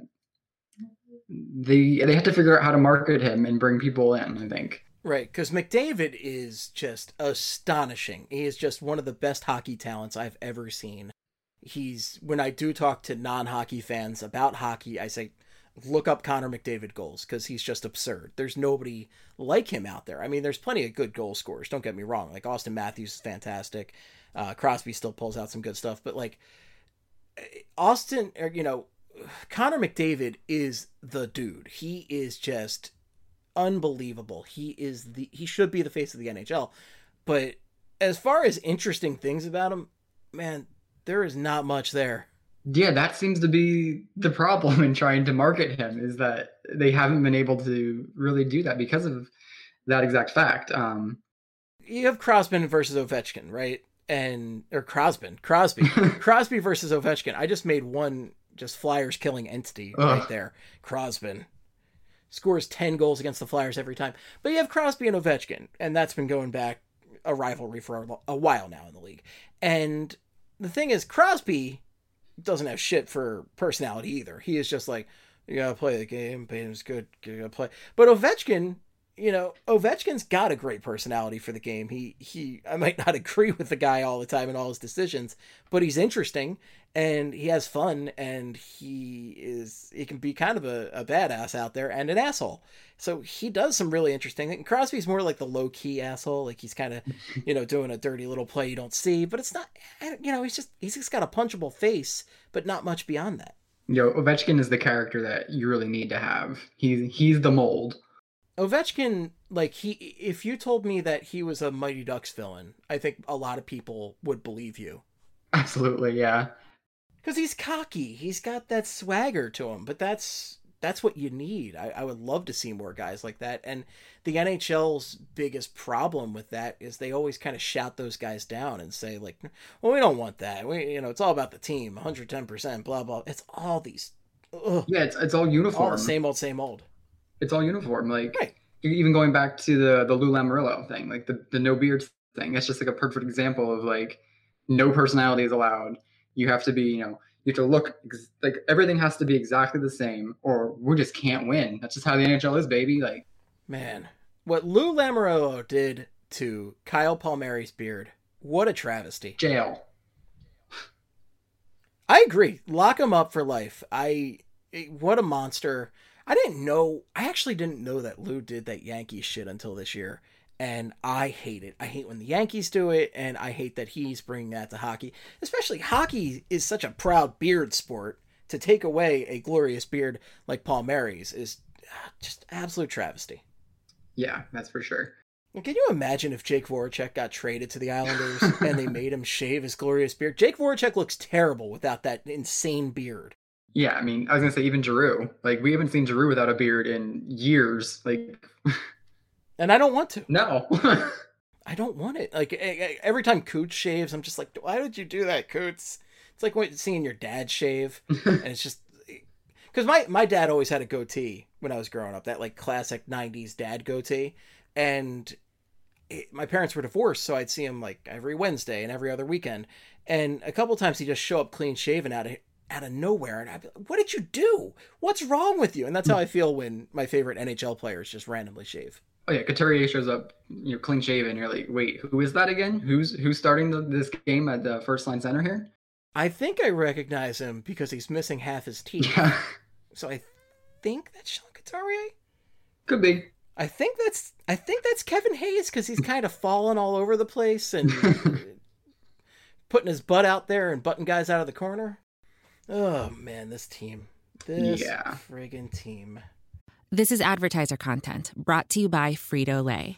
they have to figure out how to market him and bring people in, I think. Right, because McDavid is just astonishing. He is just one of the best hockey talents I've ever seen. When I do talk to non-hockey fans about hockey, I say, look up Connor McDavid goals, because he's just absurd. There's nobody like him out there. I mean, there's plenty of good goal scorers, don't get me wrong. Like, Austin Matthews is fantastic. Crosby still pulls out some good stuff, but like, Connor McDavid is the dude. He is just unbelievable. He should be the face of the NHL. But as far as interesting things about him, man, there is not much there. Yeah, that seems to be the problem in trying to market him, is that they haven't been able to really do that because of that exact fact. You have Crosby versus Ovechkin, right? Crosby versus Ovechkin. I just made one just Flyers killing entity right there. Crosby scores 10 goals against the Flyers every time. But you have Crosby and Ovechkin, and that's been going back a rivalry for a while now in the league. And the thing is, Crosby doesn't have shit for personality either. He is just like, you gotta play the game, game's good, you gotta play. But Ovechkin, Ovechkin's got a great personality for the game. I might not agree with the guy all the time and all his decisions, but he's interesting. and he has fun, and he can be kind of a badass out there and an asshole. So he does some really interesting things. Crosby's more like the low-key asshole. Like he's kind of, doing a dirty little play you don't see, but it's not, he's just got a punchable face, but not much beyond that. Ovechkin is the character that you really need to have. He's the mold. Ovechkin, if you told me that he was a Mighty Ducks villain, I think a lot of people would believe you. Absolutely, yeah. Because he's cocky. He's got that swagger to him, but that's what you need. I would love to see more guys like that. And the NHL's biggest problem with that is they always kind of shout those guys down and say, we don't want that. It's all about the team, 110%, blah, blah. It's all these... Ugh. Yeah, it's all uniform. All the same old. It's all uniform. Right. Even going back to the Lou Lamoriello thing, the no beard thing, that's just a perfect example of no personality is allowed. You have to be, you have to look everything has to be exactly the same, or we just can't win. That's just how the NHL is, baby. Man, what Lou Lamoriello did to Kyle Palmieri's beard, what a travesty. Jail. I agree. Lock him up for life. What a monster. I actually didn't know that Lou did that Yankees shit until this year. And I hate it. I hate when the Yankees do it, and I hate that he's bringing that to hockey. Especially hockey is such a proud beard sport. To take away a glorious beard like Palmieri's is just absolute travesty. Yeah, that's for sure. Can you imagine if Jake Voracek got traded to the Islanders and they made him shave his glorious beard? Jake Voracek looks terrible without that insane beard. Yeah, I mean, I was going to say even Giroux. We haven't seen Giroux without a beard in years. And I don't want to. No. I don't want it. Every time Coots shaves, I'm just like, why did you do that, Coots? It's like seeing your dad shave. And it's just... Because my dad always had a goatee when I was growing up. That classic 90s dad goatee. And my parents were divorced, so I'd see him every Wednesday and every other weekend. And a couple times he'd just show up clean shaven out of nowhere, and I'd be like, what did you do? What's wrong with you? And that's how I feel when my favorite NHL players just randomly shave. Oh yeah, Couturier shows up, clean shaven. You're like, wait, who is that again? Who's starting this game at the first line center here? I think I recognize him because he's missing half his teeth. Yeah. So I think that's Sean Couturier. Could be. I think that's Kevin Hayes because he's kind of falling all over the place and putting his butt out there and butting guys out of the corner. Oh, man, this team. This friggin' team. This is advertiser content brought to you by Frito-Lay.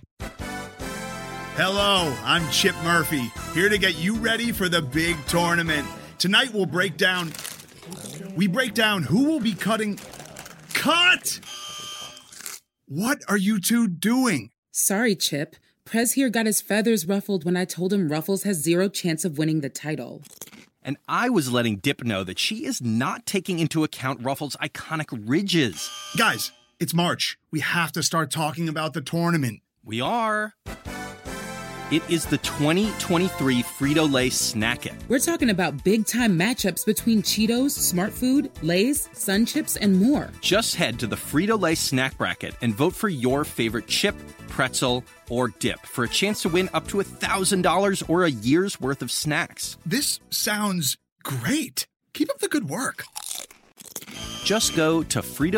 Hello, I'm Chip Murphy, here to get you ready for the big tournament. Tonight we break down who will be cutting... Cut! What are you two doing? Sorry, Chip. Prez here got his feathers ruffled when I told him Ruffles has zero chance of winning the title. And I was letting Dip know that she is not taking into account Ruffles' iconic ridges. Guys, it's March. We have to start talking about the tournament. We are. It is the 2023 Frito-Lay Snack It. We're talking about big-time matchups between Cheetos, Smart Food, Lay's, Sun Chips, and more. Just head to the Frito-Lay Snack Bracket and vote for your favorite chip, pretzel, or dip for a chance to win up to $1,000 or a year's worth of snacks. This sounds great. Keep up the good work. Just go to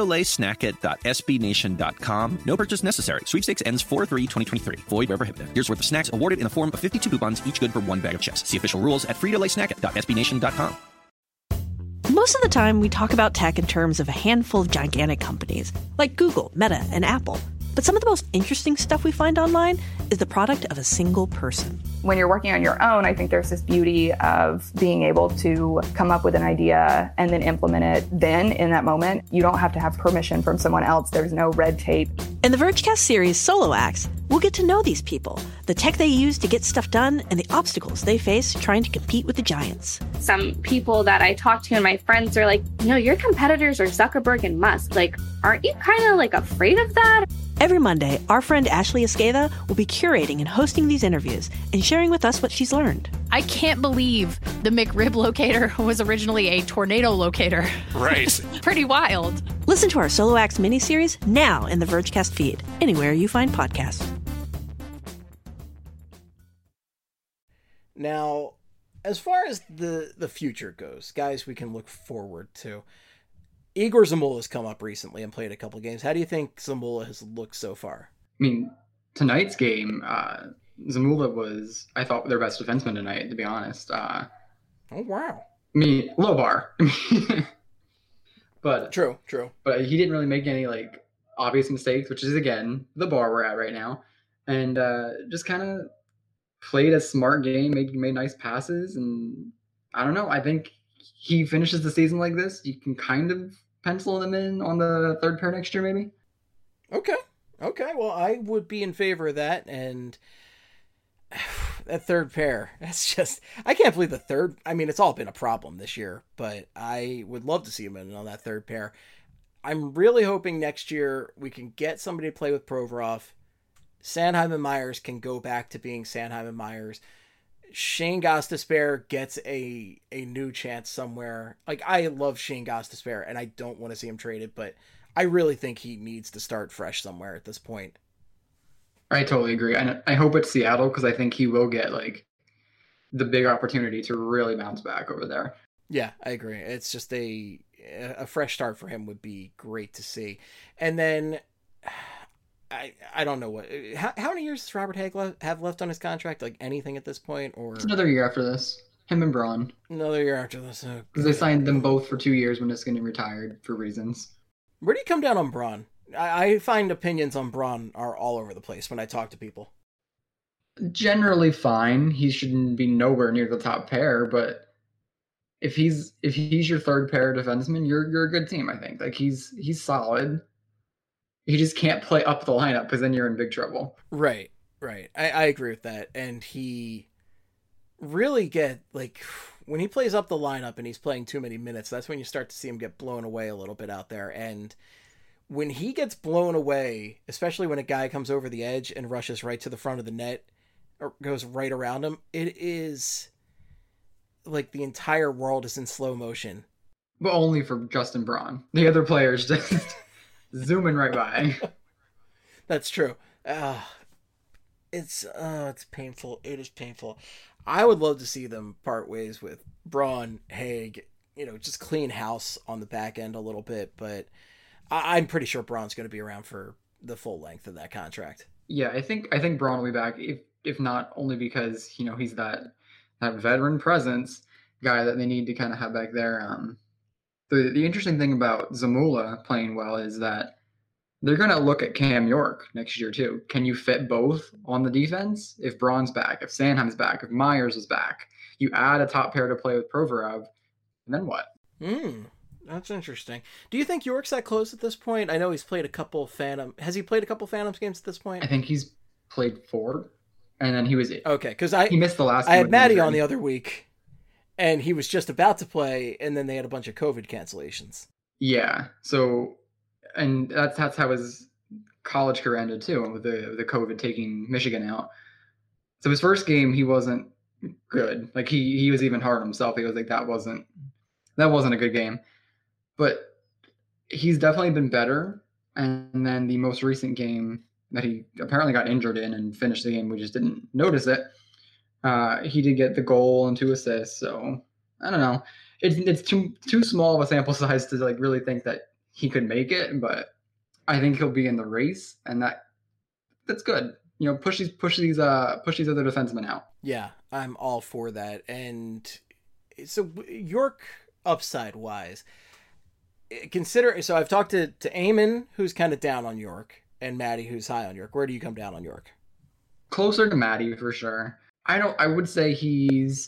fritolaysnackit.sbnation.com. No purchase necessary. Sweepstakes ends 4/3/2023. Void where prohibited. Year's worth of snacks awarded in the form of 52 coupons, each good for one bag of chips. See official rules at fritolaysnackit.sbnation.com. Most of the time, we talk about tech in terms of a handful of gigantic companies, like Google, Meta, and Apple. But some of the most interesting stuff we find online is the product of a single person. When you're working on your own, I think there's this beauty of being able to come up with an idea and then implement it then in that moment. You don't have to have permission from someone else. There's no red tape. In the Vergecast series Solo Acts, we'll get to know these people, the tech they use to get stuff done, and the obstacles they face trying to compete with the giants. Some people that I talk to and my friends are like, your competitors are Zuckerberg and Musk. Aren't you kind of afraid of that? Every Monday, our friend Ashley Esqueda will be curating and hosting these interviews and sharing with us what she's learned. I can't believe the McRib locator was originally a tornado locator. Right. Pretty wild. Listen to our Solo Acts miniseries now in the Vergecast feed, anywhere you find podcasts. Now, As far as the future goes, guys, we can look forward to. Igor Zamula's come up recently and played a couple games. How do you think Zamula has looked so far? I mean, tonight's game, Zamula was, I thought, their best defenseman tonight, to be honest. Oh, wow. I mean, low bar. But True. But he didn't really make any, like, obvious mistakes, which is, again, the bar we're at right now. And just kind of played a smart game, made nice passes, and I don't know. I think he finishes the season like this. You can kind of pencil him in on the third pair next year, maybe. Okay. Well, I would be in favor of that, and that third pair. That's just, I can't believe the third. I mean, it's all been a problem this year, but I would love to see him in on that third pair. I'm really hoping next year we can get somebody to play with Provorov. Sanheim and Myers can go back to being Sanheim and Myers. Shane Gostisbehere gets a new chance somewhere. Like, I love Shane Gostisbehere, and I don't want to see him traded, but I really think he needs to start fresh somewhere at this point. I totally agree. And I hope it's Seattle, because I think he will get, like, the big opportunity to really bounce back over there. Yeah, I agree. It's just a fresh start for him would be great to see. And then I don't know how many years does Robert Hagg have left on his contract? Like anything at this point, or it's another year after this. Him and Braun. Another year after this. Because they signed them both for 2 years when Niskanen retired for reasons. Where do you come down on Braun? I find opinions on Braun are all over the place when I talk to people. Generally fine. He shouldn't be nowhere near the top pair, but if he's your third pair defenseman, you're a good team, I think. Like he's solid. He just can't play up the lineup because then you're in big trouble. Right. I agree with that. And he really when he plays up the lineup and he's playing too many minutes, that's when you start to see him get blown away a little bit out there. And when he gets blown away, especially when a guy comes over the edge and rushes right to the front of the net or goes right around him, it is like the entire world is in slow motion. But only for Justin Braun. The other players just zooming right by. That's true. It's painful. It is painful. I would love to see them part ways with Braun, Hagg, just clean house on the back end a little bit, but I'm pretty sure Braun's going to be around for the full length of that contract. Yeah, I think Braun will be back, if not only because, he's that veteran presence guy that they need to kind of have back there. The interesting thing about Zamula playing well is that they're going to look at Cam York next year too. Can you fit both on the defense? If Braun's back, if Sanheim's back, if Myers is back, you add a top pair to play with Provorov, and then what? That's interesting. Do you think York's that close at this point? I know he's played a couple Has he played a couple Phantoms games at this point? I think he's played 4, and then he was okay because he missed the last. I had Maddie on the other week, and he was just about to play, and then they had a bunch of COVID cancellations. Yeah, so. And that's how his college career ended too, with the COVID taking Michigan out. So his first game, he wasn't good. Like he was even hard on himself. He was like, that wasn't a good game. But he's definitely been better. And then the most recent game that he apparently got injured in and finished the game, we just didn't notice it. He did get the goal and 2 assists. So I don't know. It's too small of a sample size to like really think that he could make it, but I think he'll be in the race, and that's good. Push these other defensemen out. Yeah, I'm all for that. And so York upside wise, so I've talked to Eamon, who's kind of down on York, and Maddie, who's high on York. Where do you come down on York? Closer to Maddie for sure. I would say he's.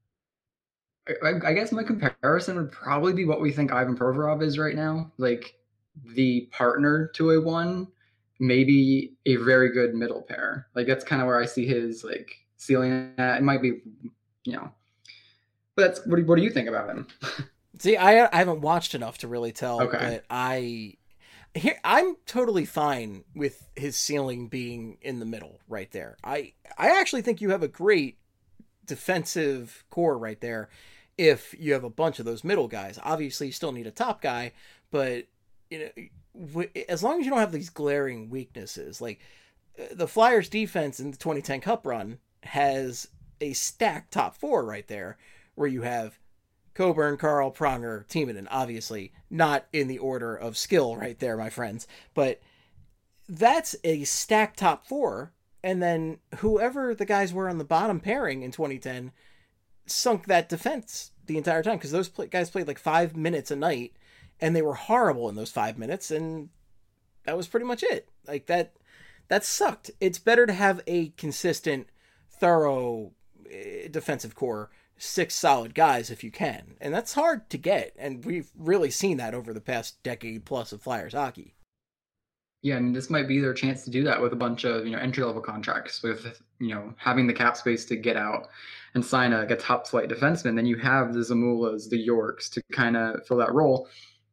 I guess my comparison would probably be what we think Ivan Provorov is right now. Like the partner to a 1, maybe a very good middle pair. Like that's kind of where I see his like ceiling at. It might be, but that's what do you think about him? See, I haven't watched enough to really tell, okay. But I'm totally fine with his ceiling being in the middle right there. I actually think you have a great defensive core right there. If you have a bunch of those middle guys, obviously you still need a top guy, but as long as you don't have these glaring weaknesses, like the Flyers defense in the 2010 Cup run has a stacked top four right there, where you have Coburn, Carl, Pronger, Timonen, obviously not in the order of skill right there, my friends, but that's a stacked top four. And then whoever the guys were on the bottom pairing in 2010 sunk that defense the entire time, because those guys played like 5 minutes a night, and they were horrible in those 5 minutes, and that was pretty much it. Like that sucked. It's better to have a consistent, thorough defensive core, 6 solid guys if you can, and that's hard to get, and we've really seen that over the past decade plus of Flyers hockey. Yeah, and this might be their chance to do that with a bunch of, entry-level contracts, with, having the cap space to get out and sign a top-flight defenseman. Then you have the Zamulas, the Yorks to kind of fill that role,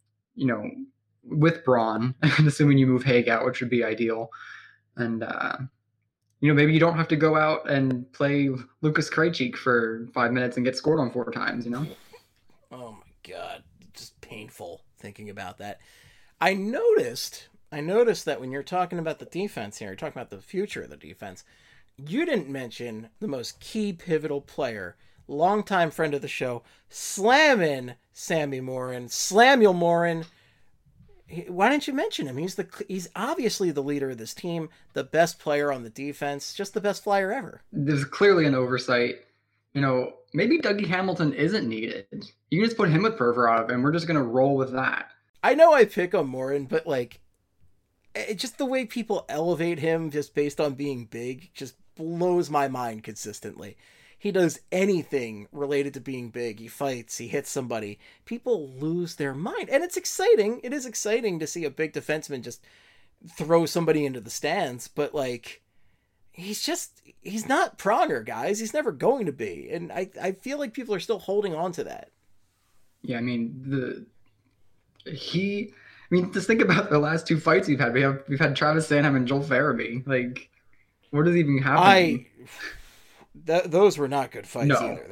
with Braun, assuming you move Haig out, which would be ideal. And, maybe you don't have to go out and play Lucas Krejcik for 5 minutes and get scored on 4 times, Oh, my God. Just painful thinking about that. I noticed that when you're talking about the defense here, you're talking about the future of the defense, you didn't mention the most key pivotal player, longtime friend of the show, slamming Sammy Morin, Slamuel Morin. Why didn't you mention him? He's obviously the leader of this team, the best player on the defense, just the best Flyer ever. There's clearly an oversight. Maybe Dougie Hamilton isn't needed. You can just put him with Provorov, and we're just going to roll with that. I know I pick on Morin, but just the way people elevate him just based on being big just blows my mind consistently. He does anything related to being big. He fights, he hits somebody. People lose their mind. And it's exciting. It is exciting to see a big defenseman just throw somebody into the stands. But, he's not Pronger, guys. He's never going to be. And I feel like people are still holding on to that. Yeah, just think about the last 2 fights we've had. We've had Travis Sanheim and Joel Farabee. What is even happening? Those were not good fights No. either.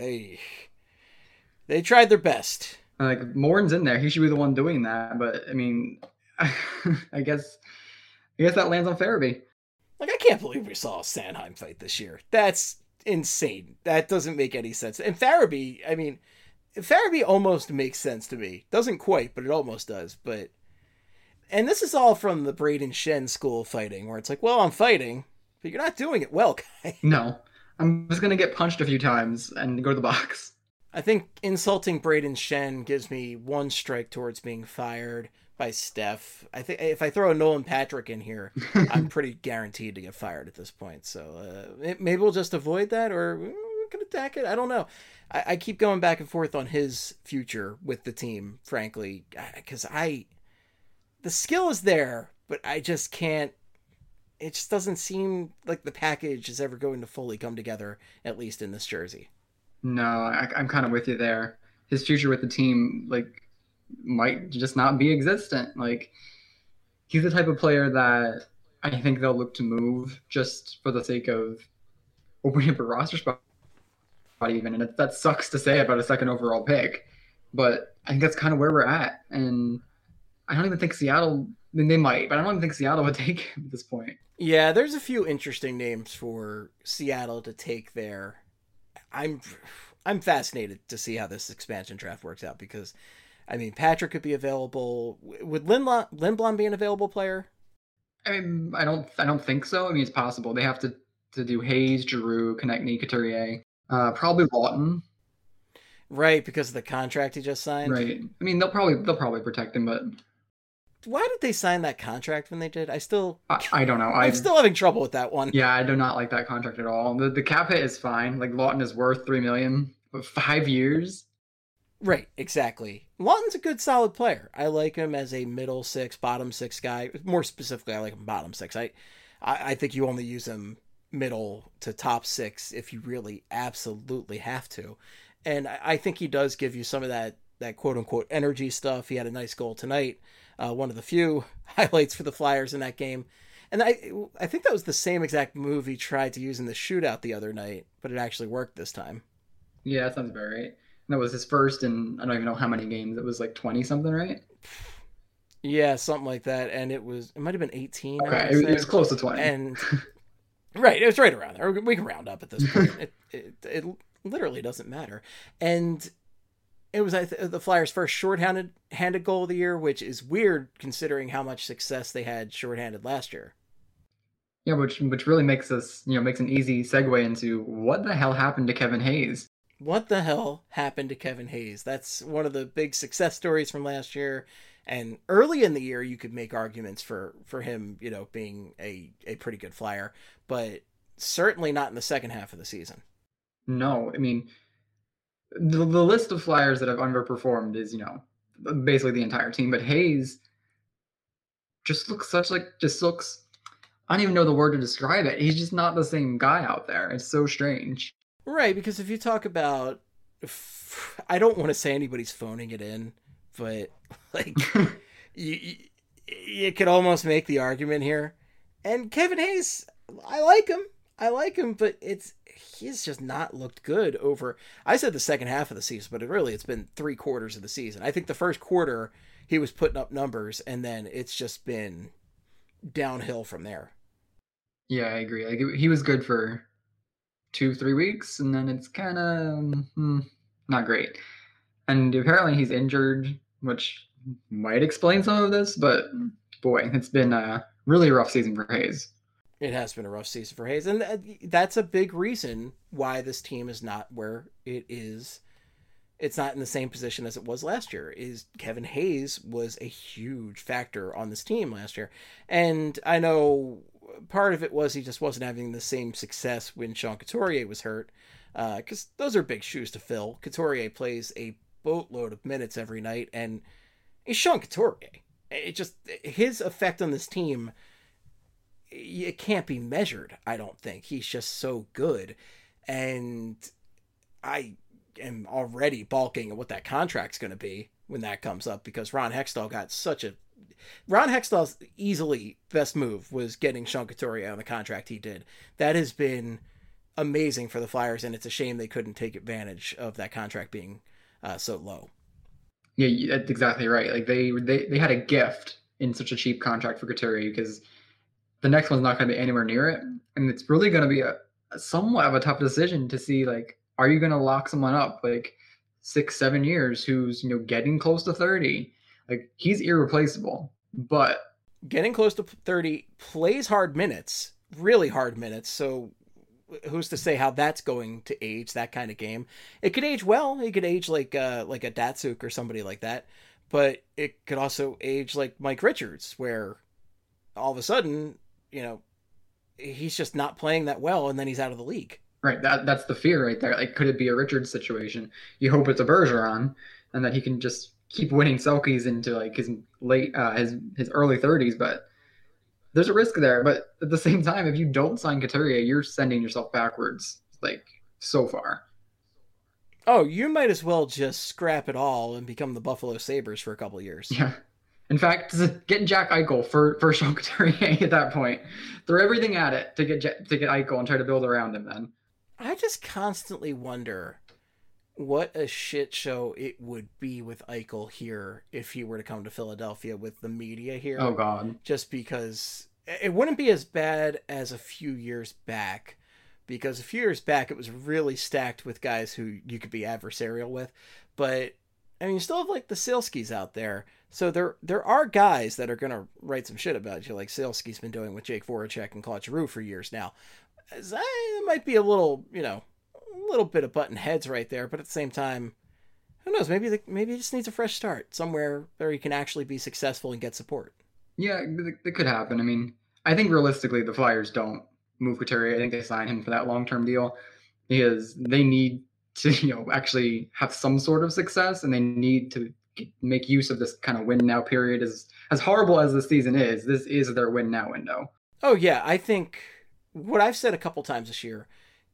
They tried their best. Morin's in there. He should be the one doing that. But I guess that lands on Farabee. I can't believe we saw a Sanheim fight this year. That's insane. That doesn't make any sense. And Farabee, Farabee almost makes sense to me. Doesn't quite, but it almost does. And this is all from the Braden Shen school of fighting, where it's I'm fighting, but you're not doing it well, guy. No. I'm just going to get punched a few times and go to the box. I think insulting Braden Shen gives me 1 strike towards being fired by Steph. I think if I throw a Nolan Patrick in here, I'm pretty guaranteed to get fired at this point. So maybe we'll just avoid that, or we can attack it. I don't know. I keep going back and forth on his future with the team, frankly, because the skill is there, but I just can't. It just doesn't seem like the package is ever going to fully come together, at least in this jersey. No, I'm kind of with you there. His future with the team, might just not be existent. He's the type of player that I think they'll look to move just for the sake of opening up a roster spot even. And that sucks to say about a 2nd overall pick, but I think that's kind of where we're at. And I don't even think Seattle, they might, but I don't even think Seattle would take him at this point. Yeah, there's a few interesting names for Seattle to take there. I'm fascinated to see how this expansion draft works out, because, Patrick could be available. Would Lindblom be an available player? I don't think so. It's possible. They have to do Hayes, Giroux, Konechny, Couturier, probably Lawton. Right, because of the contract he just signed. Right. They'll probably protect him, but why did they sign that contract when they did? I don't know. I'm still having trouble with that one. Yeah, I do not like that contract at all. The cap hit is fine. Lawton is worth $3 million, but 5 years. Right, exactly. Lawton's a good, solid player. I like him as a middle 6, bottom 6 guy. More specifically, I like him bottom 6. I think you only use him middle to top 6 if you really absolutely have to. And I think he does give you some of that quote-unquote energy stuff. He had a nice goal tonight. One of the few highlights for the Flyers in that game. And I think that was the same exact move he tried to use in the shootout the other night, but it actually worked this time. Yeah, that sounds about right. That was his first in, I don't even know how many games. It was 20-something, right? Yeah, something like that. And it might have been 18. Okay, it was close to 20. And Right, it was right around there. We can round up at this point. It literally doesn't matter. And it was the Flyers' first shorthanded goal of the year, which is weird considering how much success they had shorthanded last year. Yeah, which really makes makes an easy segue into what the hell happened to Kevin Hayes. What the hell happened to Kevin Hayes? That's one of the big success stories from last year. And early in the year, you could make arguments for him, being a pretty good Flyer, but certainly not in the second half of the season. No, I mean, the list of Flyers that have underperformed is, basically the entire team. But Hayes just looks I don't even know the word to describe it. He's just not the same guy out there. It's so strange. Right, because if you talk about, I don't want to say anybody's phoning it in, but like you could almost make the argument here. And Kevin Hayes, I like him, but he's just not looked good over. I said the second half of the season, but it's been 3/4 of the season. I think the first quarter he was putting up numbers, and then it's just been downhill from there. Yeah, I agree. Like he was good for 2-3 weeks, and then it's kind of not great. And apparently he's injured, which might explain some of this. But boy, it's been a really rough season for Hayes. It has been a rough season for Hayes, and that's a big reason why this team is not where it is. It's not in the same position as it was last year. Is Kevin Hayes was a huge factor on this team last year. And I know part of it was he just wasn't having the same success when Sean Couturier was hurt, because those are big shoes to fill. Couturier plays a boatload of minutes every night, and it's Sean Couturier. His effect on this team, it can't be measured, I don't think. He's just so good. And I am already balking at what that contract's going to be when that comes up, because Ron Hextall's easily best move was getting Sean Couturier on the contract he did. That has been amazing for the Flyers, and it's a shame they couldn't take advantage of that contract being so low. Yeah, that's exactly right. Like they had a gift in such a cheap contract for Couturier, because the next one's not going to be anywhere near it, and it's really going to be a somewhat of a tough decision to see, like, are you going to lock someone up like 6-7 years who's getting close to 30? Like, he's irreplaceable, but getting close to 30, plays hard minutes, really hard minutes. So who's to say how that's going to age, that kind of game? It could age well. It could age like a Datsuk or somebody like that, but it could also age like Mike Richards, where all of a sudden, he's just not playing that well, and then he's out of the league. Right. That's the fear right there. Like, could it be a Richards situation? You hope it's a Bergeron, and that he can just keep winning Selkies into like his early 30s, but there's a risk there. But at the same time, if you don't sign Couturier, you're sending yourself backwards, like, so far. Oh, you might as well just scrap it all and become the Buffalo Sabres for a couple of years. Yeah. In fact, get Jack Eichel for Sean Couturier at that point. Throw everything at it to get Eichel and try to build around him then. I just constantly wonder what a shit show it would be with Eichel here if he were to come to Philadelphia with the media here. Oh, God. Just because it wouldn't be as bad as a few years back, because a few years back it was really stacked with guys who you could be adversarial with. But, I mean, you still have, like, the Saleski's out there. So there are guys that are going to write some shit about you, like Saleski's been doing with Jake Voracek and Claude Giroux for years now. It might be a little bit of button heads right there, but at the same time, who knows? Maybe he just needs a fresh start somewhere where he can actually be successful and get support. Yeah, that could happen. I mean, I think realistically the Flyers don't move Couturier. I think they sign him for that long-term deal because they need to, actually have some sort of success, and they need to make use of this kind of win now period. As horrible as the season is, this is their win now window. Oh yeah, I think what I've said a couple times this year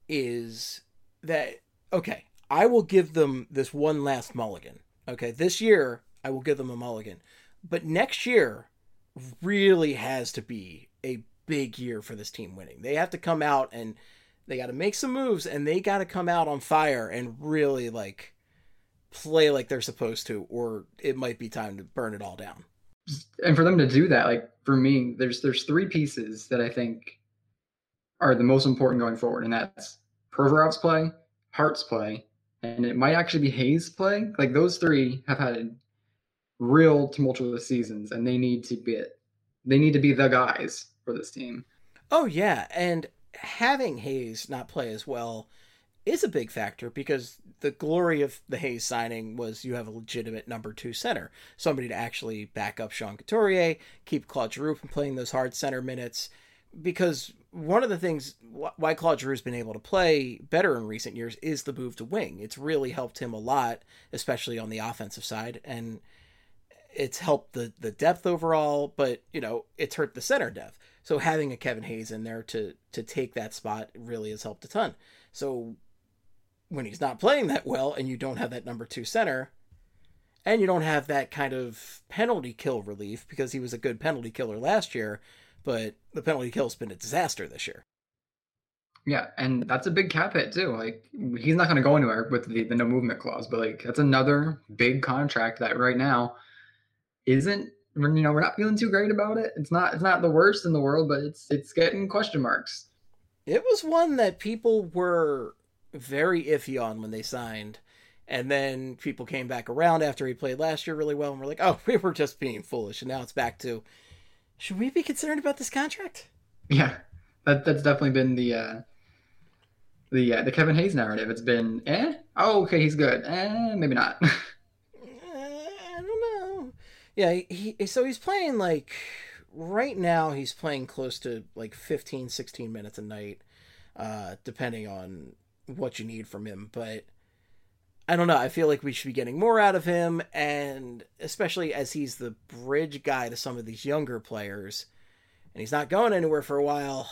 is that, okay, I will give them this one last mulligan. Okay, this year I will give them a mulligan, but next year really has to be a big year for this team winning. They have to come out and they got to make some moves, and they got to come out on fire and really like play like they're supposed to, or it might be time to burn it all down. And for them to do that, like, for me, there's 3 pieces that I think are the most important going forward, and that's Provorov's play, Hart's play, and it might actually be Hayes' play. Like those three have had real tumultuous seasons, and they need to be the guys for this team. Oh yeah, and having Hayes not play as well is a big factor, because the glory of the Hayes signing was you have a legitimate number 2 center, somebody to actually back up Sean Couturier, keep Claude Giroux from playing those hard center minutes. Because one of the things why Claude Giroux's been able to play better in recent years is the move to wing. It's really helped him a lot, especially on the offensive side, and it's helped the depth overall, but it's hurt the center depth. So having a Kevin Hayes in there to take that spot really has helped a ton. So when he's not playing that well, and you don't have that number 2 center, and you don't have that kind of penalty kill relief, because he was a good penalty killer last year, but the penalty kill's been a disaster this year. Yeah, and that's a big cap hit too. Like, he's not going to go anywhere with the no movement clause, but like that's another big contract that right now isn't, we're not feeling too great about it. It's not the worst in the world, but it's getting question marks. It was one that people were very iffy on when they signed, and then people came back around after he played last year really well and were like, oh, we were just being foolish. And now it's back to, should we be concerned about this contract? Yeah, that's definitely been the Kevin Hayes narrative. It's been, oh, okay, he's good, maybe not. I don't know. Yeah, so he's playing, like, right now he's playing close to like 15, 16 minutes a night, depending on what you need from him. But I don't know. I feel like we should be getting more out of him, and especially as he's the bridge guy to some of these younger players, and he's not going anywhere for a while.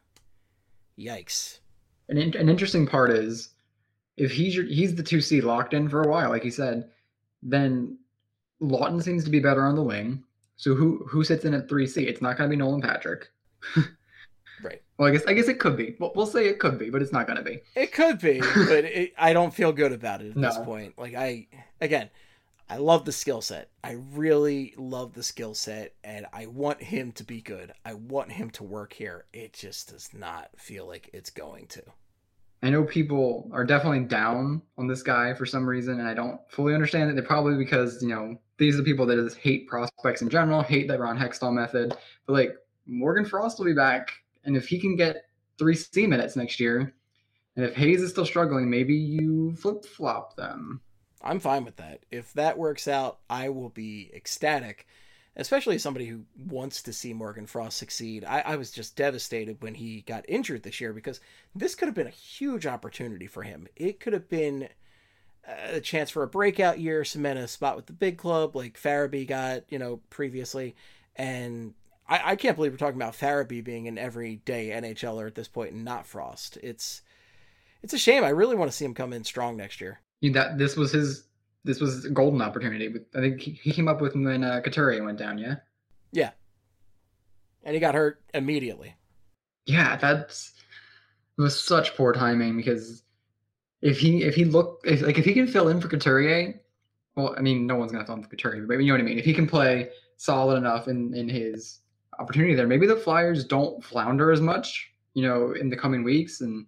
Yikes. An interesting part is, if he's the 2C locked in for a while, like he said, then Lawton seems to be better on the wing. So who sits in at 3C? It's not going to be Nolan Patrick. Right. Well, I guess it could be. We'll say it could be, but it's not going to be. It could be, but I don't feel good about it at this point. Like, I love the skill set. I really love the skill set, and I want him to be good. I want him to work here. It just does not feel like it's going to. I know people are definitely down on this guy for some reason, and I don't fully understand it. They're probably because, these are the people that just hate prospects in general, hate the Ron Hextall method. But, like, Morgan Frost will be back, and if he can get 3C minutes next year, and if Hayes is still struggling, maybe you flip-flop them. I'm fine with that. If that works out, I will be ecstatic, especially as somebody who wants to see Morgan Frost succeed. I was just devastated when he got injured this year, because this could have been a huge opportunity for him. It could have been a chance for a breakout year, cement a spot with the big club like Farabee got, previously. And I can't believe we're talking about Farabee being an everyday NHLer at this point and not Frost. It's a shame. I really want to see him come in strong next year. This was a golden opportunity. I think he came up with when Couturier went down, yeah? Yeah. And he got hurt immediately. Yeah, it was such poor timing, because if he can fill in for Couturier, well, I mean, no one's going to fill in for Couturier, but you know what I mean? If he can play solid enough in his opportunity there, maybe the Flyers don't flounder as much, in the coming weeks. And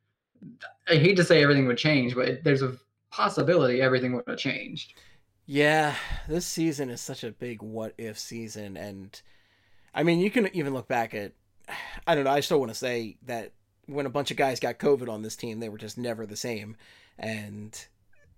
I hate to say everything would change, but there's a possibility everything would have changed. Yeah, this season is such a big what-if season, and I mean, you can even look back at, I don't know, I still want to say that when a bunch of guys got COVID on this team, they were just never the same, and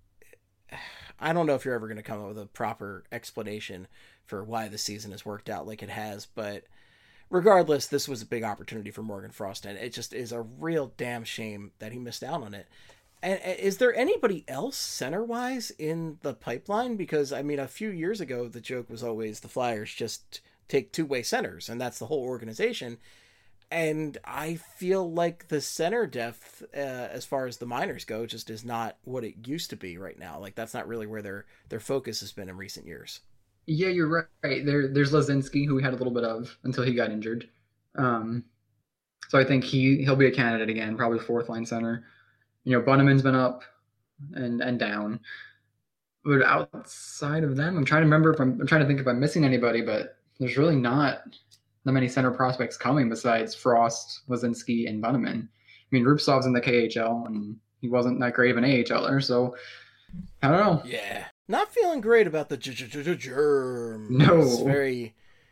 I don't know if you're ever going to come up with a proper explanation for why the season has worked out like it has, but regardless, this was a big opportunity for Morgan Frost, and it just is a real damn shame that he missed out on it. And is there anybody else center-wise in the pipeline? Because, I mean, a few years ago, the joke was always the Flyers just take two-way centers, and that's the whole organization. And I feel like the center depth, as far as the minors go, just is not what it used to be right now. Like, that's not really where their focus has been in recent years. Yeah, you're right. There's Lazinski, who we had a little bit of until he got injured. So I think he'll be a candidate again, probably fourth-line center. Bunneman's been up and down. But outside of them, I'm trying to think if I'm missing anybody, but there's really not the many center prospects coming besides Frost, Lazinski, and Bunneman. I mean, Rubtsov's in the KHL, and he wasn't that great of an AHLer, so I don't know. Yeah. Not feeling great about the germ. No. It's very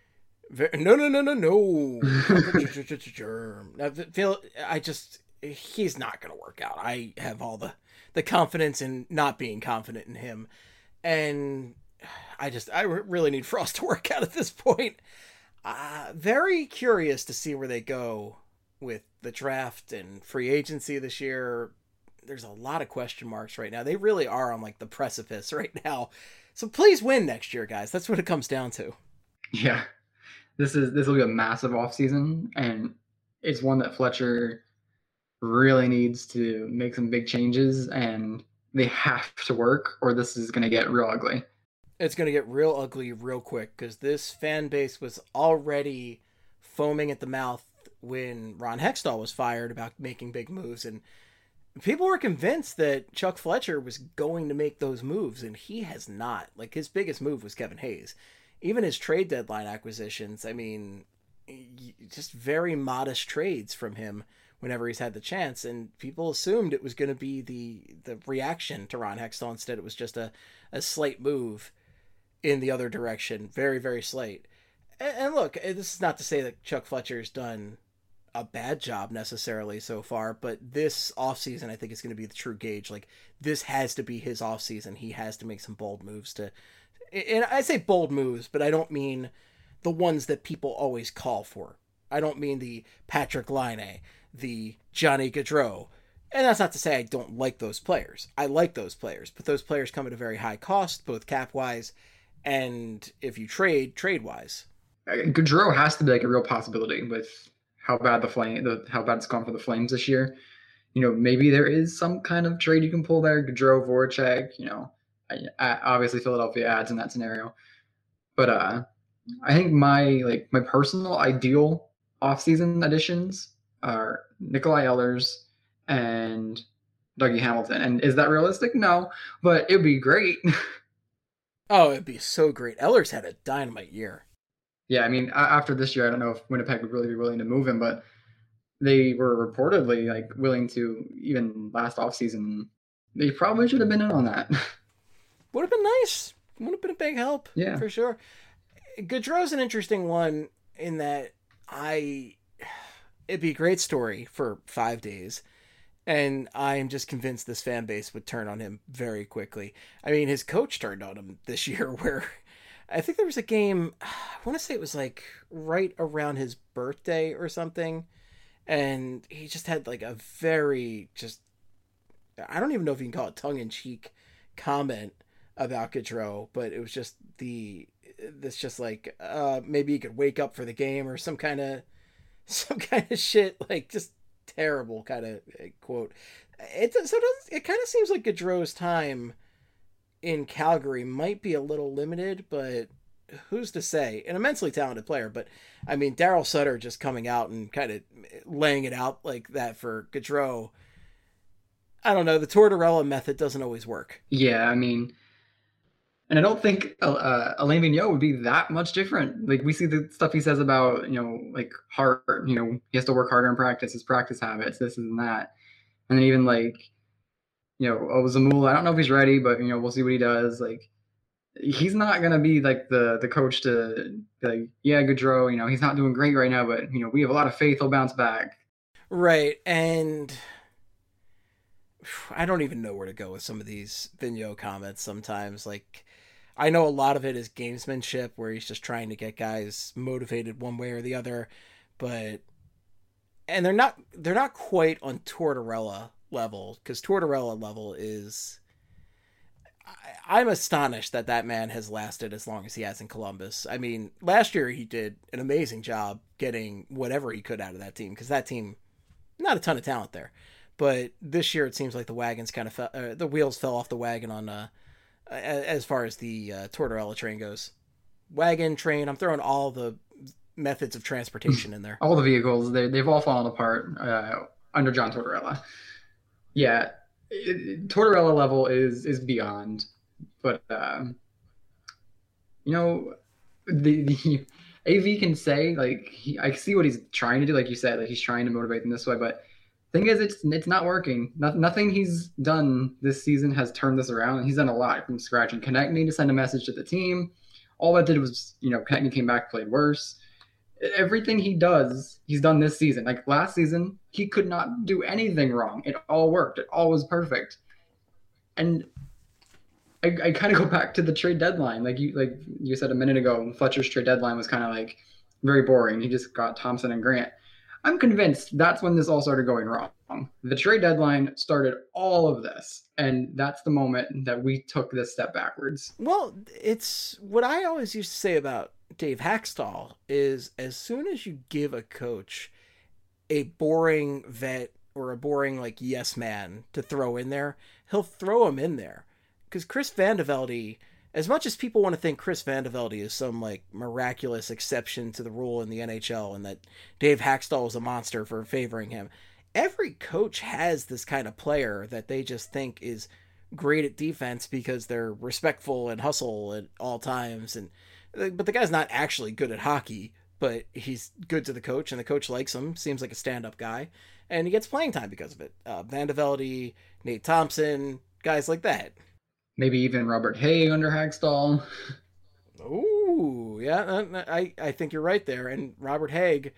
no. Germ. Now, he's not going to work out. I have all the confidence in not being confident in him. And I really need Frost to work out at this point. Very curious to see where they go with the draft and free agency this year. There's a lot of question marks right now. They really are on like the precipice right now. So please win next year, guys. That's what it comes down to. Yeah. This will be a massive offseason, and it's one that Fletcher really needs to make some big changes, and they have to work, or this is going to get real ugly. It's going to get real ugly real quick, because this fan base was already foaming at the mouth when Ron Hextall was fired about making big moves, and people were convinced that Chuck Fletcher was going to make those moves, and he has not. Like, his biggest move was Kevin Hayes. Even his trade deadline acquisitions, I mean, just very modest trades from him whenever he's had the chance, and people assumed it was going to be the reaction to Ron Hextall. Instead, it was just a slight move in the other direction. Very, very slight. And look, this is not to say that Chuck Fletcher's done a bad job necessarily so far, but this offseason I think is going to be the true gauge. Like, this has to be his offseason. He has to make some bold moves and I say bold moves, but I don't mean the ones that people always call for. I don't mean the Patrick Laine, the Johnny Gaudreau. And that's not to say I don't like those players. I like those players, but those players come at a very high cost, both cap-wise and if you trade-wise. Gaudreau has to be like a real possibility with how bad how bad it's gone for the Flames this year. You know, maybe there is some kind of trade you can pull there. Gaudreau, Voracek, you know, obviously Philadelphia adds in that scenario. But I think my personal ideal offseason additions are Nikolai Ehlers and Dougie Hamilton. And is that realistic? No, but it'd be great. Oh, it'd be so great. Ehlers had a dynamite year. Yeah, I mean, after this year, I don't know if Winnipeg would really be willing to move him, but they were reportedly like willing to, even last offseason. They probably should have been in on that. Would have been nice. Would have been a big help. Yeah, for sure. Gaudreau's an interesting one in that it'd be a great story for 5 days. And I'm just convinced this fan base would turn on him very quickly. I mean, his coach turned on him this year where I think there was a game, I want to say it was like right around his birthday or something. And he just had like a very I don't even know if you can call it tongue-in-cheek comment about Gaudreau, but it was just maybe he could wake up for the game or some kind of shit, like just terrible kind of quote. It kind of seems like Gaudreau's time in Calgary might be a little limited, but who's to say? An immensely talented player, but I mean, Daryl Sutter just coming out and kind of laying it out like that for Gaudreau. I don't know. The Tortorella method doesn't always work. Yeah, I mean, and I don't think Alain Vigneault would be that much different. Like, we see the stuff he says about, you know, like heart, you know, he has to work harder in practice, his practice habits, this and that. And then even like, you know, Zamula, I don't know if he's ready, but, you know, we'll see what he does. Like, he's not going to be like the coach to be like, yeah, Gaudreau, you know, he's not doing great right now, but, you know, we have a lot of faith he'll bounce back. Right. And I don't even know where to go with some of these Vigneault comments sometimes. Like, I know a lot of it is gamesmanship where he's just trying to get guys motivated one way or the other, and they're not quite on Tortorella level, because Tortorella level is, I'm astonished that man has lasted as long as he has in Columbus. I mean, last year he did an amazing job getting whatever he could out of that team, because that team, not a ton of talent there. But this year it seems like the wagons kind of the wheels fell off the wagon on as far as the Tortorella train goes. Wagon, train, I'm throwing all the methods of transportation in there. All the vehicles, they've all fallen apart under John Tortorella. Yeah, Tortorella level is beyond. But, you know, AV can say, like, I see what he's trying to do, like you said, like he's trying to motivate them this way, but thing is, it's not working. Nothing he's done this season has turned this around. He's done a lot from scratch, and Konechny to send a message to the team. All that did was, Konechny came back, played worse. Everything he does, he's done this season. Like last season, he could not do anything wrong. It all worked. It all was perfect. And I kind of go back to the trade deadline. Like you said a minute ago, Fletcher's trade deadline was kind of like very boring. He just got Thompson and Grant. I'm convinced that's when this all started going wrong. The trade deadline started all of this, and that's the moment that we took this step backwards. Well, it's what I always used to say about Dave Haxtell is as soon as you give a coach a boring vet or a boring like yes man to throw in there, he'll throw him in there. Because Chris Van de Velde, as much as people want to think Chris Van de Velde is some like miraculous exception to the rule in the NHL and that Dave Haxtell is a monster for favoring him, every coach has this kind of player that they just think is great at defense because they're respectful and hustle at all times. But the guy's not actually good at hockey, but he's good to the coach and the coach likes him, seems like a stand-up guy, and he gets playing time because of it. Van de Velde, Nate Thompson, guys like that. Maybe even Robert Haig under Haxtell. Ooh, yeah, I think you're right there. And Robert Haig,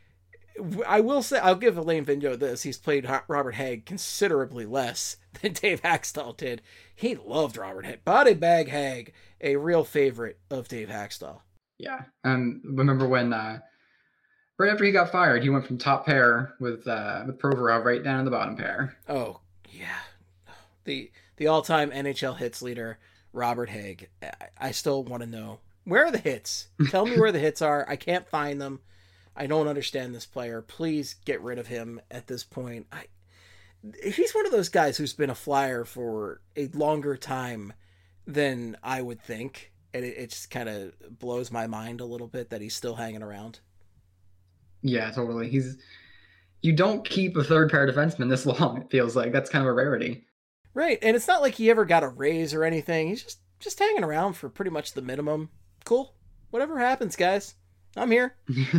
I will say, I'll give Alain Vigneault this. He's played Robert Haig considerably less than Dave Haxtell did. He loved Robert Haig. Body Bag Haig, a real favorite of Dave Haxtell. Yeah. Remember when right after he got fired, he went from top pair with Provorov right down to the bottom pair. Oh, yeah. The all-time NHL hits leader, Robert Haig. I still want to know, where are the hits? Tell me where the hits are. I can't find them. I don't understand this player. Please get rid of him at this point. He's one of those guys who's been a Flyer for a longer time than I would think. And it just kind of blows my mind a little bit that he's still hanging around. Yeah, totally. You don't keep a third pair defenseman this long, it feels like. That's kind of a rarity. Right, and it's not like he ever got a raise or anything. He's just hanging around for pretty much the minimum. Cool. Whatever happens, guys. I'm here.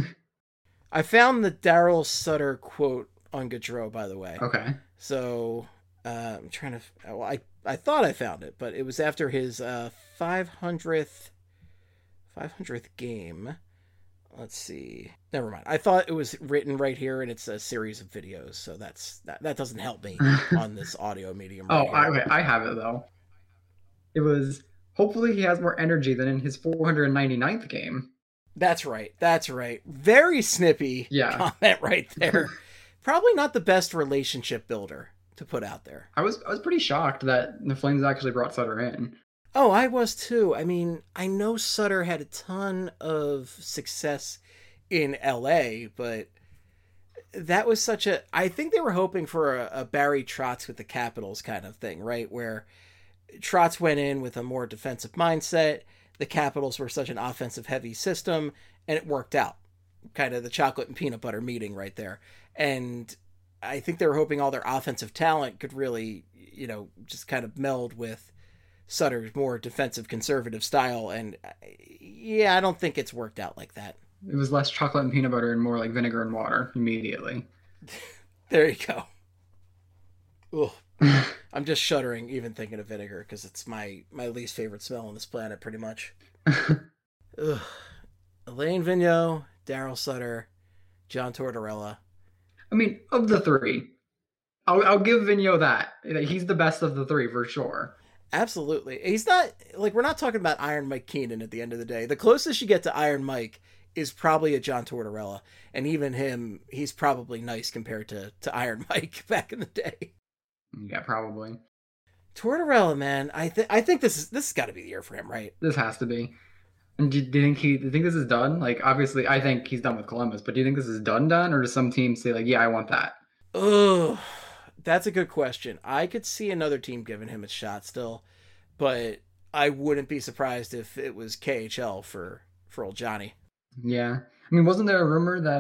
I found the Daryl Sutter quote on Gaudreau, by the way. Okay. So, I'm trying to... Well, I thought I found it, but it was after his 500th game. Let's see. Never mind. I thought it was written right here, and it's a series of videos, so that doesn't help me on this audio medium. Right okay. I have it, though. It was, hopefully he has more energy than in his 499th game. That's right. Very snippy comment right there. Probably not the best relationship builder to put out there. I was pretty shocked that the Flames actually brought Sutter in. Oh, I was too. I mean, I know Sutter had a ton of success in LA, but that was I think they were hoping for a Barry Trotz with the Capitals kind of thing, right? Where Trotz went in with a more defensive mindset. The Capitals were such an offensive heavy system, and it worked out. Kind of the chocolate and peanut butter meeting right there. And I think they were hoping all their offensive talent could really, just kind of meld with Sutter's more defensive conservative style, and I don't think it's worked out like that. It was less chocolate and peanut butter and more like vinegar and water immediately. There you go. Ugh. I'm just shuddering even thinking of vinegar because it's my least favorite smell on this planet, pretty much. Ugh. Alain Vigneault, Daryl Sutter, John Tortorella. I mean, of the three, I'll give Vigneault that. He's the best of the three for sure. Absolutely. He's not, we're not talking about Iron Mike Keenan at the end of the day. The closest you get to Iron Mike is probably a John Tortorella. And even him, he's probably nice compared to Iron Mike back in the day. Yeah, probably. Tortorella, man, I think this has got to be the year for him, right? This has to be. And do you think this is done? Like, obviously, I think he's done with Columbus, but do you think this is done, or does some team say, like, yeah, I want that? Oh, that's a good question. I could see another team giving him a shot still, but I wouldn't be surprised if it was KHL for old Johnny. Yeah. I mean, wasn't there a rumor that,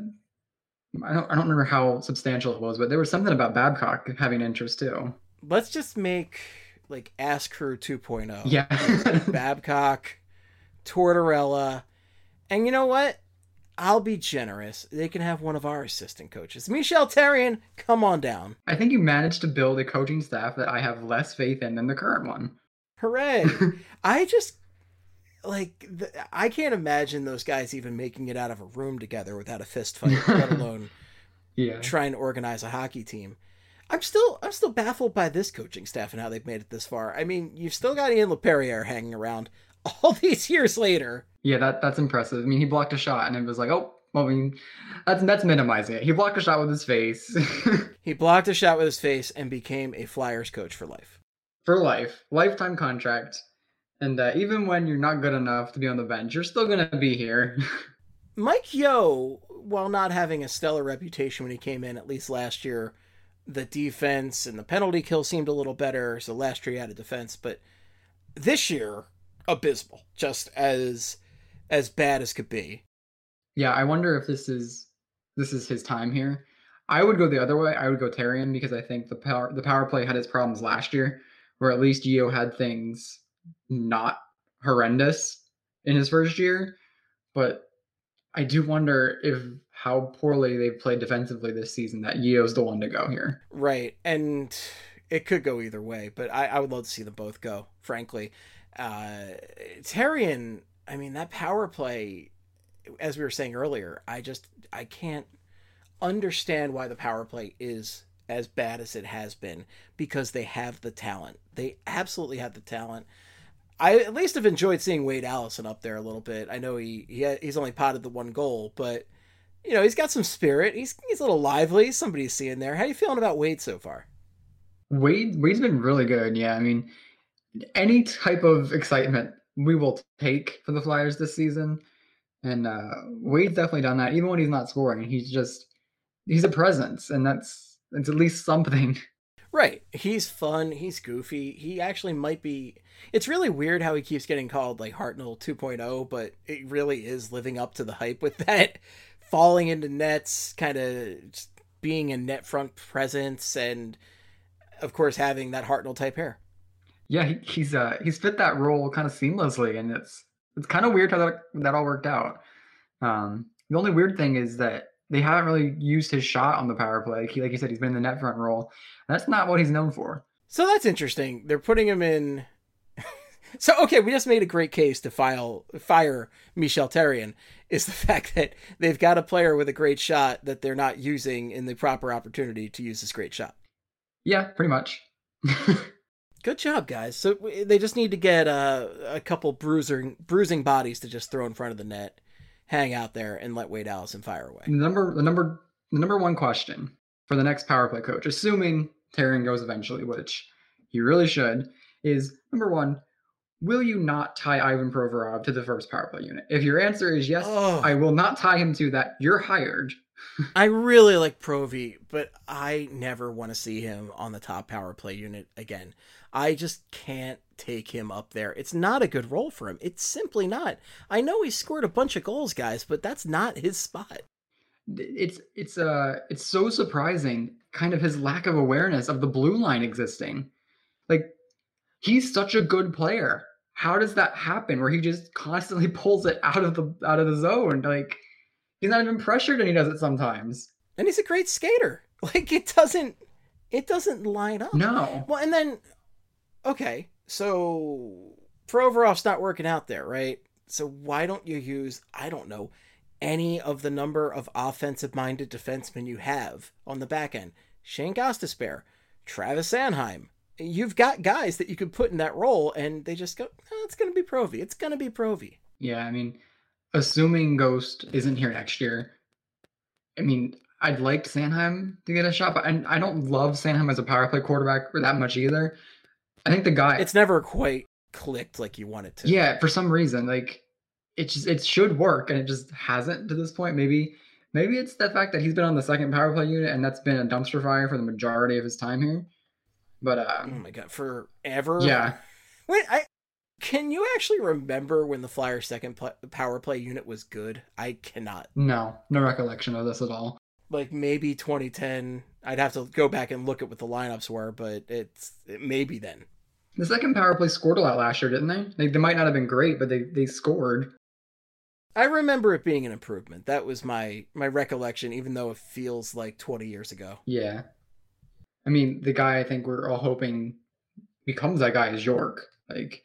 I don't remember how substantial it was, but there was something about Babcock having interest too. Let's just make, like, Ass Crew 2.0. Yeah. Babcock, Tortorella, And you know what? I'll be generous. They can have one of our assistant coaches. Michel Therrien, come on down. I think you managed to build a coaching staff that I have less faith in than the current one. Hooray. I just, I can't imagine those guys even making it out of a room together without a fist fight, let alone trying to organize a hockey team. I'm still baffled by this coaching staff and how they've made it this far. I mean, you've still got Ian LePerriere hanging around all these years later. Yeah, that's impressive. I mean, he blocked a shot and it was like, oh, well, I mean, that's minimizing it. He blocked a shot with his face. He blocked a shot with his face and became a Flyers coach for life. For life. Lifetime contract. And even when you're not good enough to be on the bench, you're still going to be here. Mike Yeo, while not having a stellar reputation when he came in, at least last year, the defense and the penalty kill seemed a little better. So last year he had a defense, but this year, abysmal. Just as bad as could be. Yeah, I wonder if this is his time here. I would go the other way. I would go Therrien because I think the power play had its problems last year, where at least Yeo had things not horrendous in his first year. But I do wonder if how poorly they've played defensively this season that Yeo's the one to go here. Right, and it could go either way, but I would love to see them both go, frankly. Therrien, I mean, that power play, as we were saying earlier, I can't understand why the power play is as bad as it has been, because they have the talent. They absolutely have the talent. I at least have enjoyed seeing Wade Allison up there a little bit. I know he's only potted the one goal, but you know, he's got some spirit. He's a little lively. Somebody's seeing there. How are you feeling about Wade so far? Wade's been really good. Yeah, I mean, any type of excitement we will take for the Flyers this season. And Wade's definitely done that. Even when he's not scoring, he's a presence, and it's at least something. Right. He's fun. He's goofy. He actually might be... It's really weird how he keeps getting called like Hartnell 2.0, but it really is living up to the hype with that. Falling into nets, kind of being a net front presence, and of course having that Hartnell type hair. Yeah, he's fit that role kind of seamlessly, and it's kind of weird how that all worked out. The only weird thing is that they haven't really used his shot on the power play. Like you said, he's been in the net front role. That's not what he's known for. So that's interesting. They're putting him in. So, okay, we just made a great case to fire Michel Therrien, is the fact that they've got a player with a great shot that they're not using in the proper opportunity to use this great shot. Yeah, pretty much. Good job, guys. So they just need to get a couple bruising bodies to just throw in front of the net, hang out there, and let Wade Allison fire away. The number one question for the next power play coach, assuming Therrien goes eventually, which he really should, is number one, will you not tie Ivan Provorov to the first power play unit? If your answer is yes, I will not tie him to that. You're hired. I really like Provi, but I never want to see him on the top power play unit again. I just can't take him up there. It's not a good role for him. It's simply not. I know he scored a bunch of goals, guys, but that's not his spot. It's so surprising, kind of his lack of awareness of the blue line existing. Like, he's such a good player. How does that happen where he just constantly pulls it out of the zone? Like, he's not even pressured and he does it sometimes. And he's a great skater. Like, it doesn't line up. No. Well, and then, okay, so Provorov's not working out there, right? So why don't you use, I don't know, any of the number of offensive-minded defensemen you have on the back end? Shane Gostisbehere, Travis Sanheim. You've got guys that you could put in that role, and they just go, oh, it's going to be Provi. It's going to be Provi. Yeah, I mean, assuming Ghost isn't here next year, I mean, I'd like Sanheim to get a shot, but I don't love Sanheim as a power play quarterback that much either. I think the guy... It's never quite clicked like you want it to. Yeah, for some reason, like, it should work, and it just hasn't to this point. Maybe it's the fact that he's been on the second power play unit, and that's been a dumpster fire for the majority of his time here. But oh my god, forever? Yeah. Wait, can you actually remember when the Flyers' second power play unit was good? I cannot. No recollection of this at all. Like maybe 2010. I'd have to go back and look at what the lineups were, but it maybe then. The second power play scored a lot last year, didn't they? They might not have been great, but they scored. I remember it being an improvement. That was my recollection, even though it feels like 20 years ago. Yeah. I mean, the guy I think we're all hoping becomes that guy is York. Like,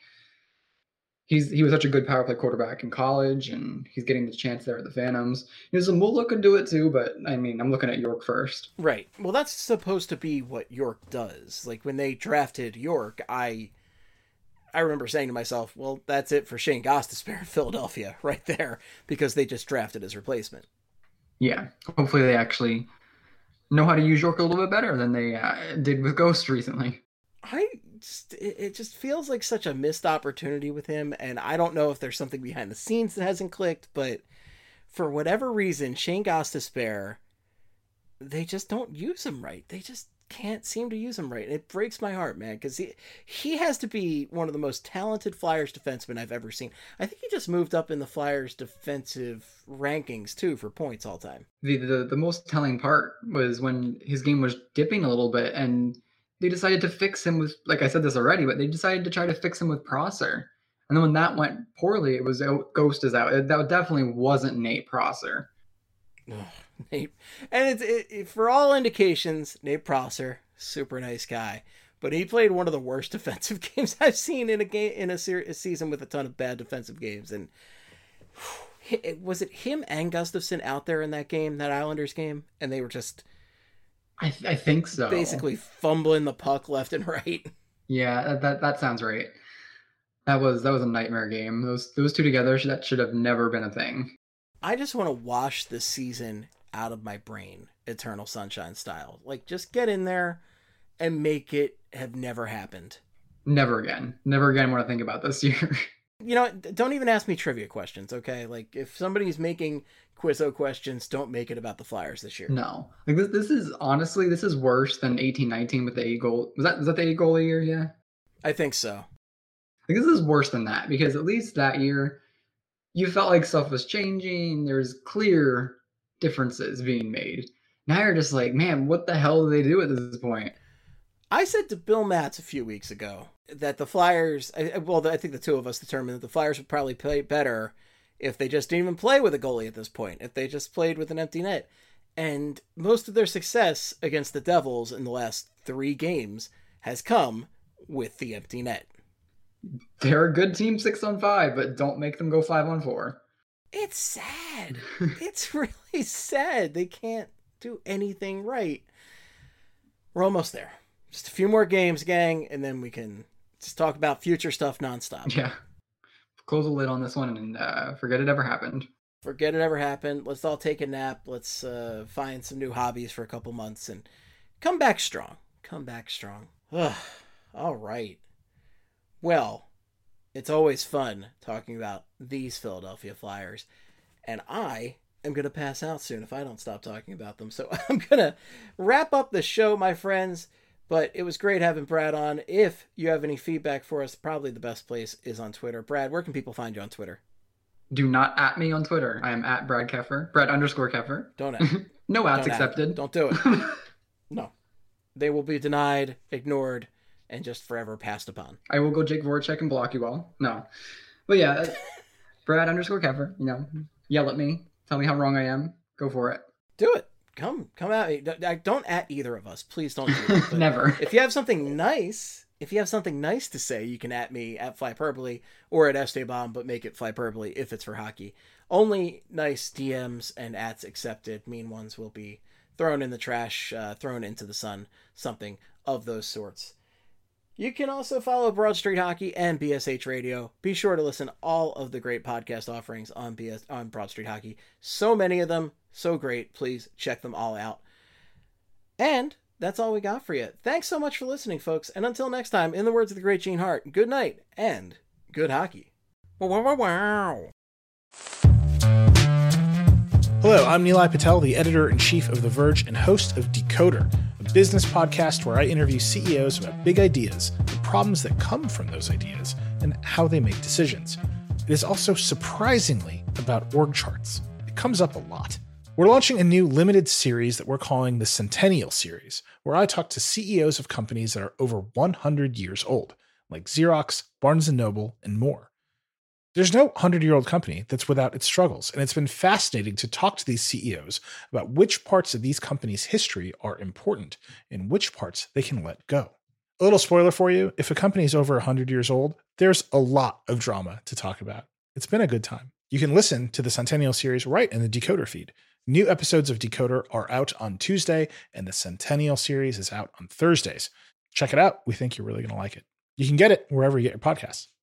he was such a good power play quarterback in college, and he's getting the chance there at the Phantoms. Zamula could do it too, but I mean, I'm looking at York first. Right. Well, that's supposed to be what York does. Like, when they drafted York, I remember saying to myself, well, that's it for Shane Gostisbehere in Philadelphia right there, because they just drafted his replacement. Yeah. Hopefully they actually know how to use York a little bit better than they did with Ghost recently. It just feels like such a missed opportunity with him, and I don't know if there's something behind the scenes that hasn't clicked, but for whatever reason, Shane Gostisbehere, they just don't use him right. They just can't seem to use him right. And it breaks my heart, man, because he has to be one of the most talented Flyers defensemen I've ever seen. I think he just moved up in the Flyers defensive rankings too for points all time. The most telling part was when his game was dipping a little bit, and they decided to fix him with, like I said this already, but they decided to try to fix him with Prosser. And then when that went poorly, it was Ghost is out. That definitely wasn't Nate Prosser. Nate, and it's for all indications, Nate Prosser, super nice guy, but he played one of the worst defensive games I've seen in a season with a ton of bad defensive games. And was it him and Gustafsson out there in that game, that Islanders game, and they were just, I think so, basically fumbling the puck left and right. Yeah, that sounds right. That was a nightmare game. Those two together, that should have never been a thing. I just want to wash this season out of my brain, Eternal Sunshine style. Like, just get in there and make it have never happened. Never again. Never again want to think about this year. You know, don't even ask me trivia questions, okay? Like, if somebody's making Quizzo questions, don't make it about the Flyers this year. No. Like, this is, honestly, this is worse than 18-19 with the 8 goal. Was that the 8 goal year? Yeah. I think so. Like, this is worse than that, because at least that year, you felt like stuff was changing. There's clear differences being made. Now you're just like, man, what the hell do they do at this point? I said to Bill Matz a few weeks ago that the Flyers, I think the two of us determined that the Flyers would probably play better if they just didn't even play with a goalie at this point, if they just played with an empty net. And most of their success against the Devils in the last 3 games has come with the empty net. They're a good team 6-on-5, but don't make them go 5-on-4. It's sad. It's really sad. They can't do anything right. We're almost there. Just a few more games, gang, and then we can just talk about future stuff nonstop. Yeah. Close the lid on this one and forget it ever happened. Forget it ever happened. Let's all take a nap. Let's find some new hobbies for a couple months and come back strong. Come back strong. Ugh. All right. Well, it's always fun talking about these Philadelphia Flyers, and I am going to pass out soon if I don't stop talking about them. So I'm going to wrap up the show, my friends, but it was great having Brad on. If you have any feedback for us, probably the best place is on Twitter. Brad, where can people find you on Twitter? Do not at me on Twitter. I am at Brad Keffer. Brad_Keffer. Don't at. No ads accepted. Don't do it. No. They will be denied, ignored, and just forever passed upon. I will go Jake Voracek and block you all. No. But yeah, Brad_Keffer, yell at me. Tell me how wrong I am. Go for it. Do it. Come at me. Don't at either of us. Please don't do that. Never. If you have something nice to say, you can at me at Flyperbole or at Esteban, but make it Flyperbole if it's for hockey. Only nice DMs and ats accepted. Mean ones will be thrown in the trash, thrown into the sun, something of those sorts. You can also follow Broad Street Hockey and BSH Radio. Be sure to listen to all of the great podcast offerings on Broad Street Hockey. So many of them, so great. Please check them all out. And that's all we got for you. Thanks so much for listening, folks. And until next time, in the words of the great Gene Hart, good night and good hockey. Wow. Hello, I'm Nilay Patel, the editor-in-chief of The Verge and host of Decoder, a business podcast where I interview CEOs about big ideas, the problems that come from those ideas, and how they make decisions. It is also surprisingly about org charts. It comes up a lot. We're launching a new limited series that we're calling the Centennial Series, where I talk to CEOs of companies that are over 100 years old, like Xerox, Barnes & Noble, and more. There's no 100-year-old company that's without its struggles, and it's been fascinating to talk to these CEOs about which parts of these companies' history are important and which parts they can let go. A little spoiler for you, if a company is over 100 years old, there's a lot of drama to talk about. It's been a good time. You can listen to the Centennial series right in the Decoder feed. New episodes of Decoder are out on Tuesday, and the Centennial series is out on Thursdays. Check it out. We think you're really going to like it. You can get it wherever you get your podcasts.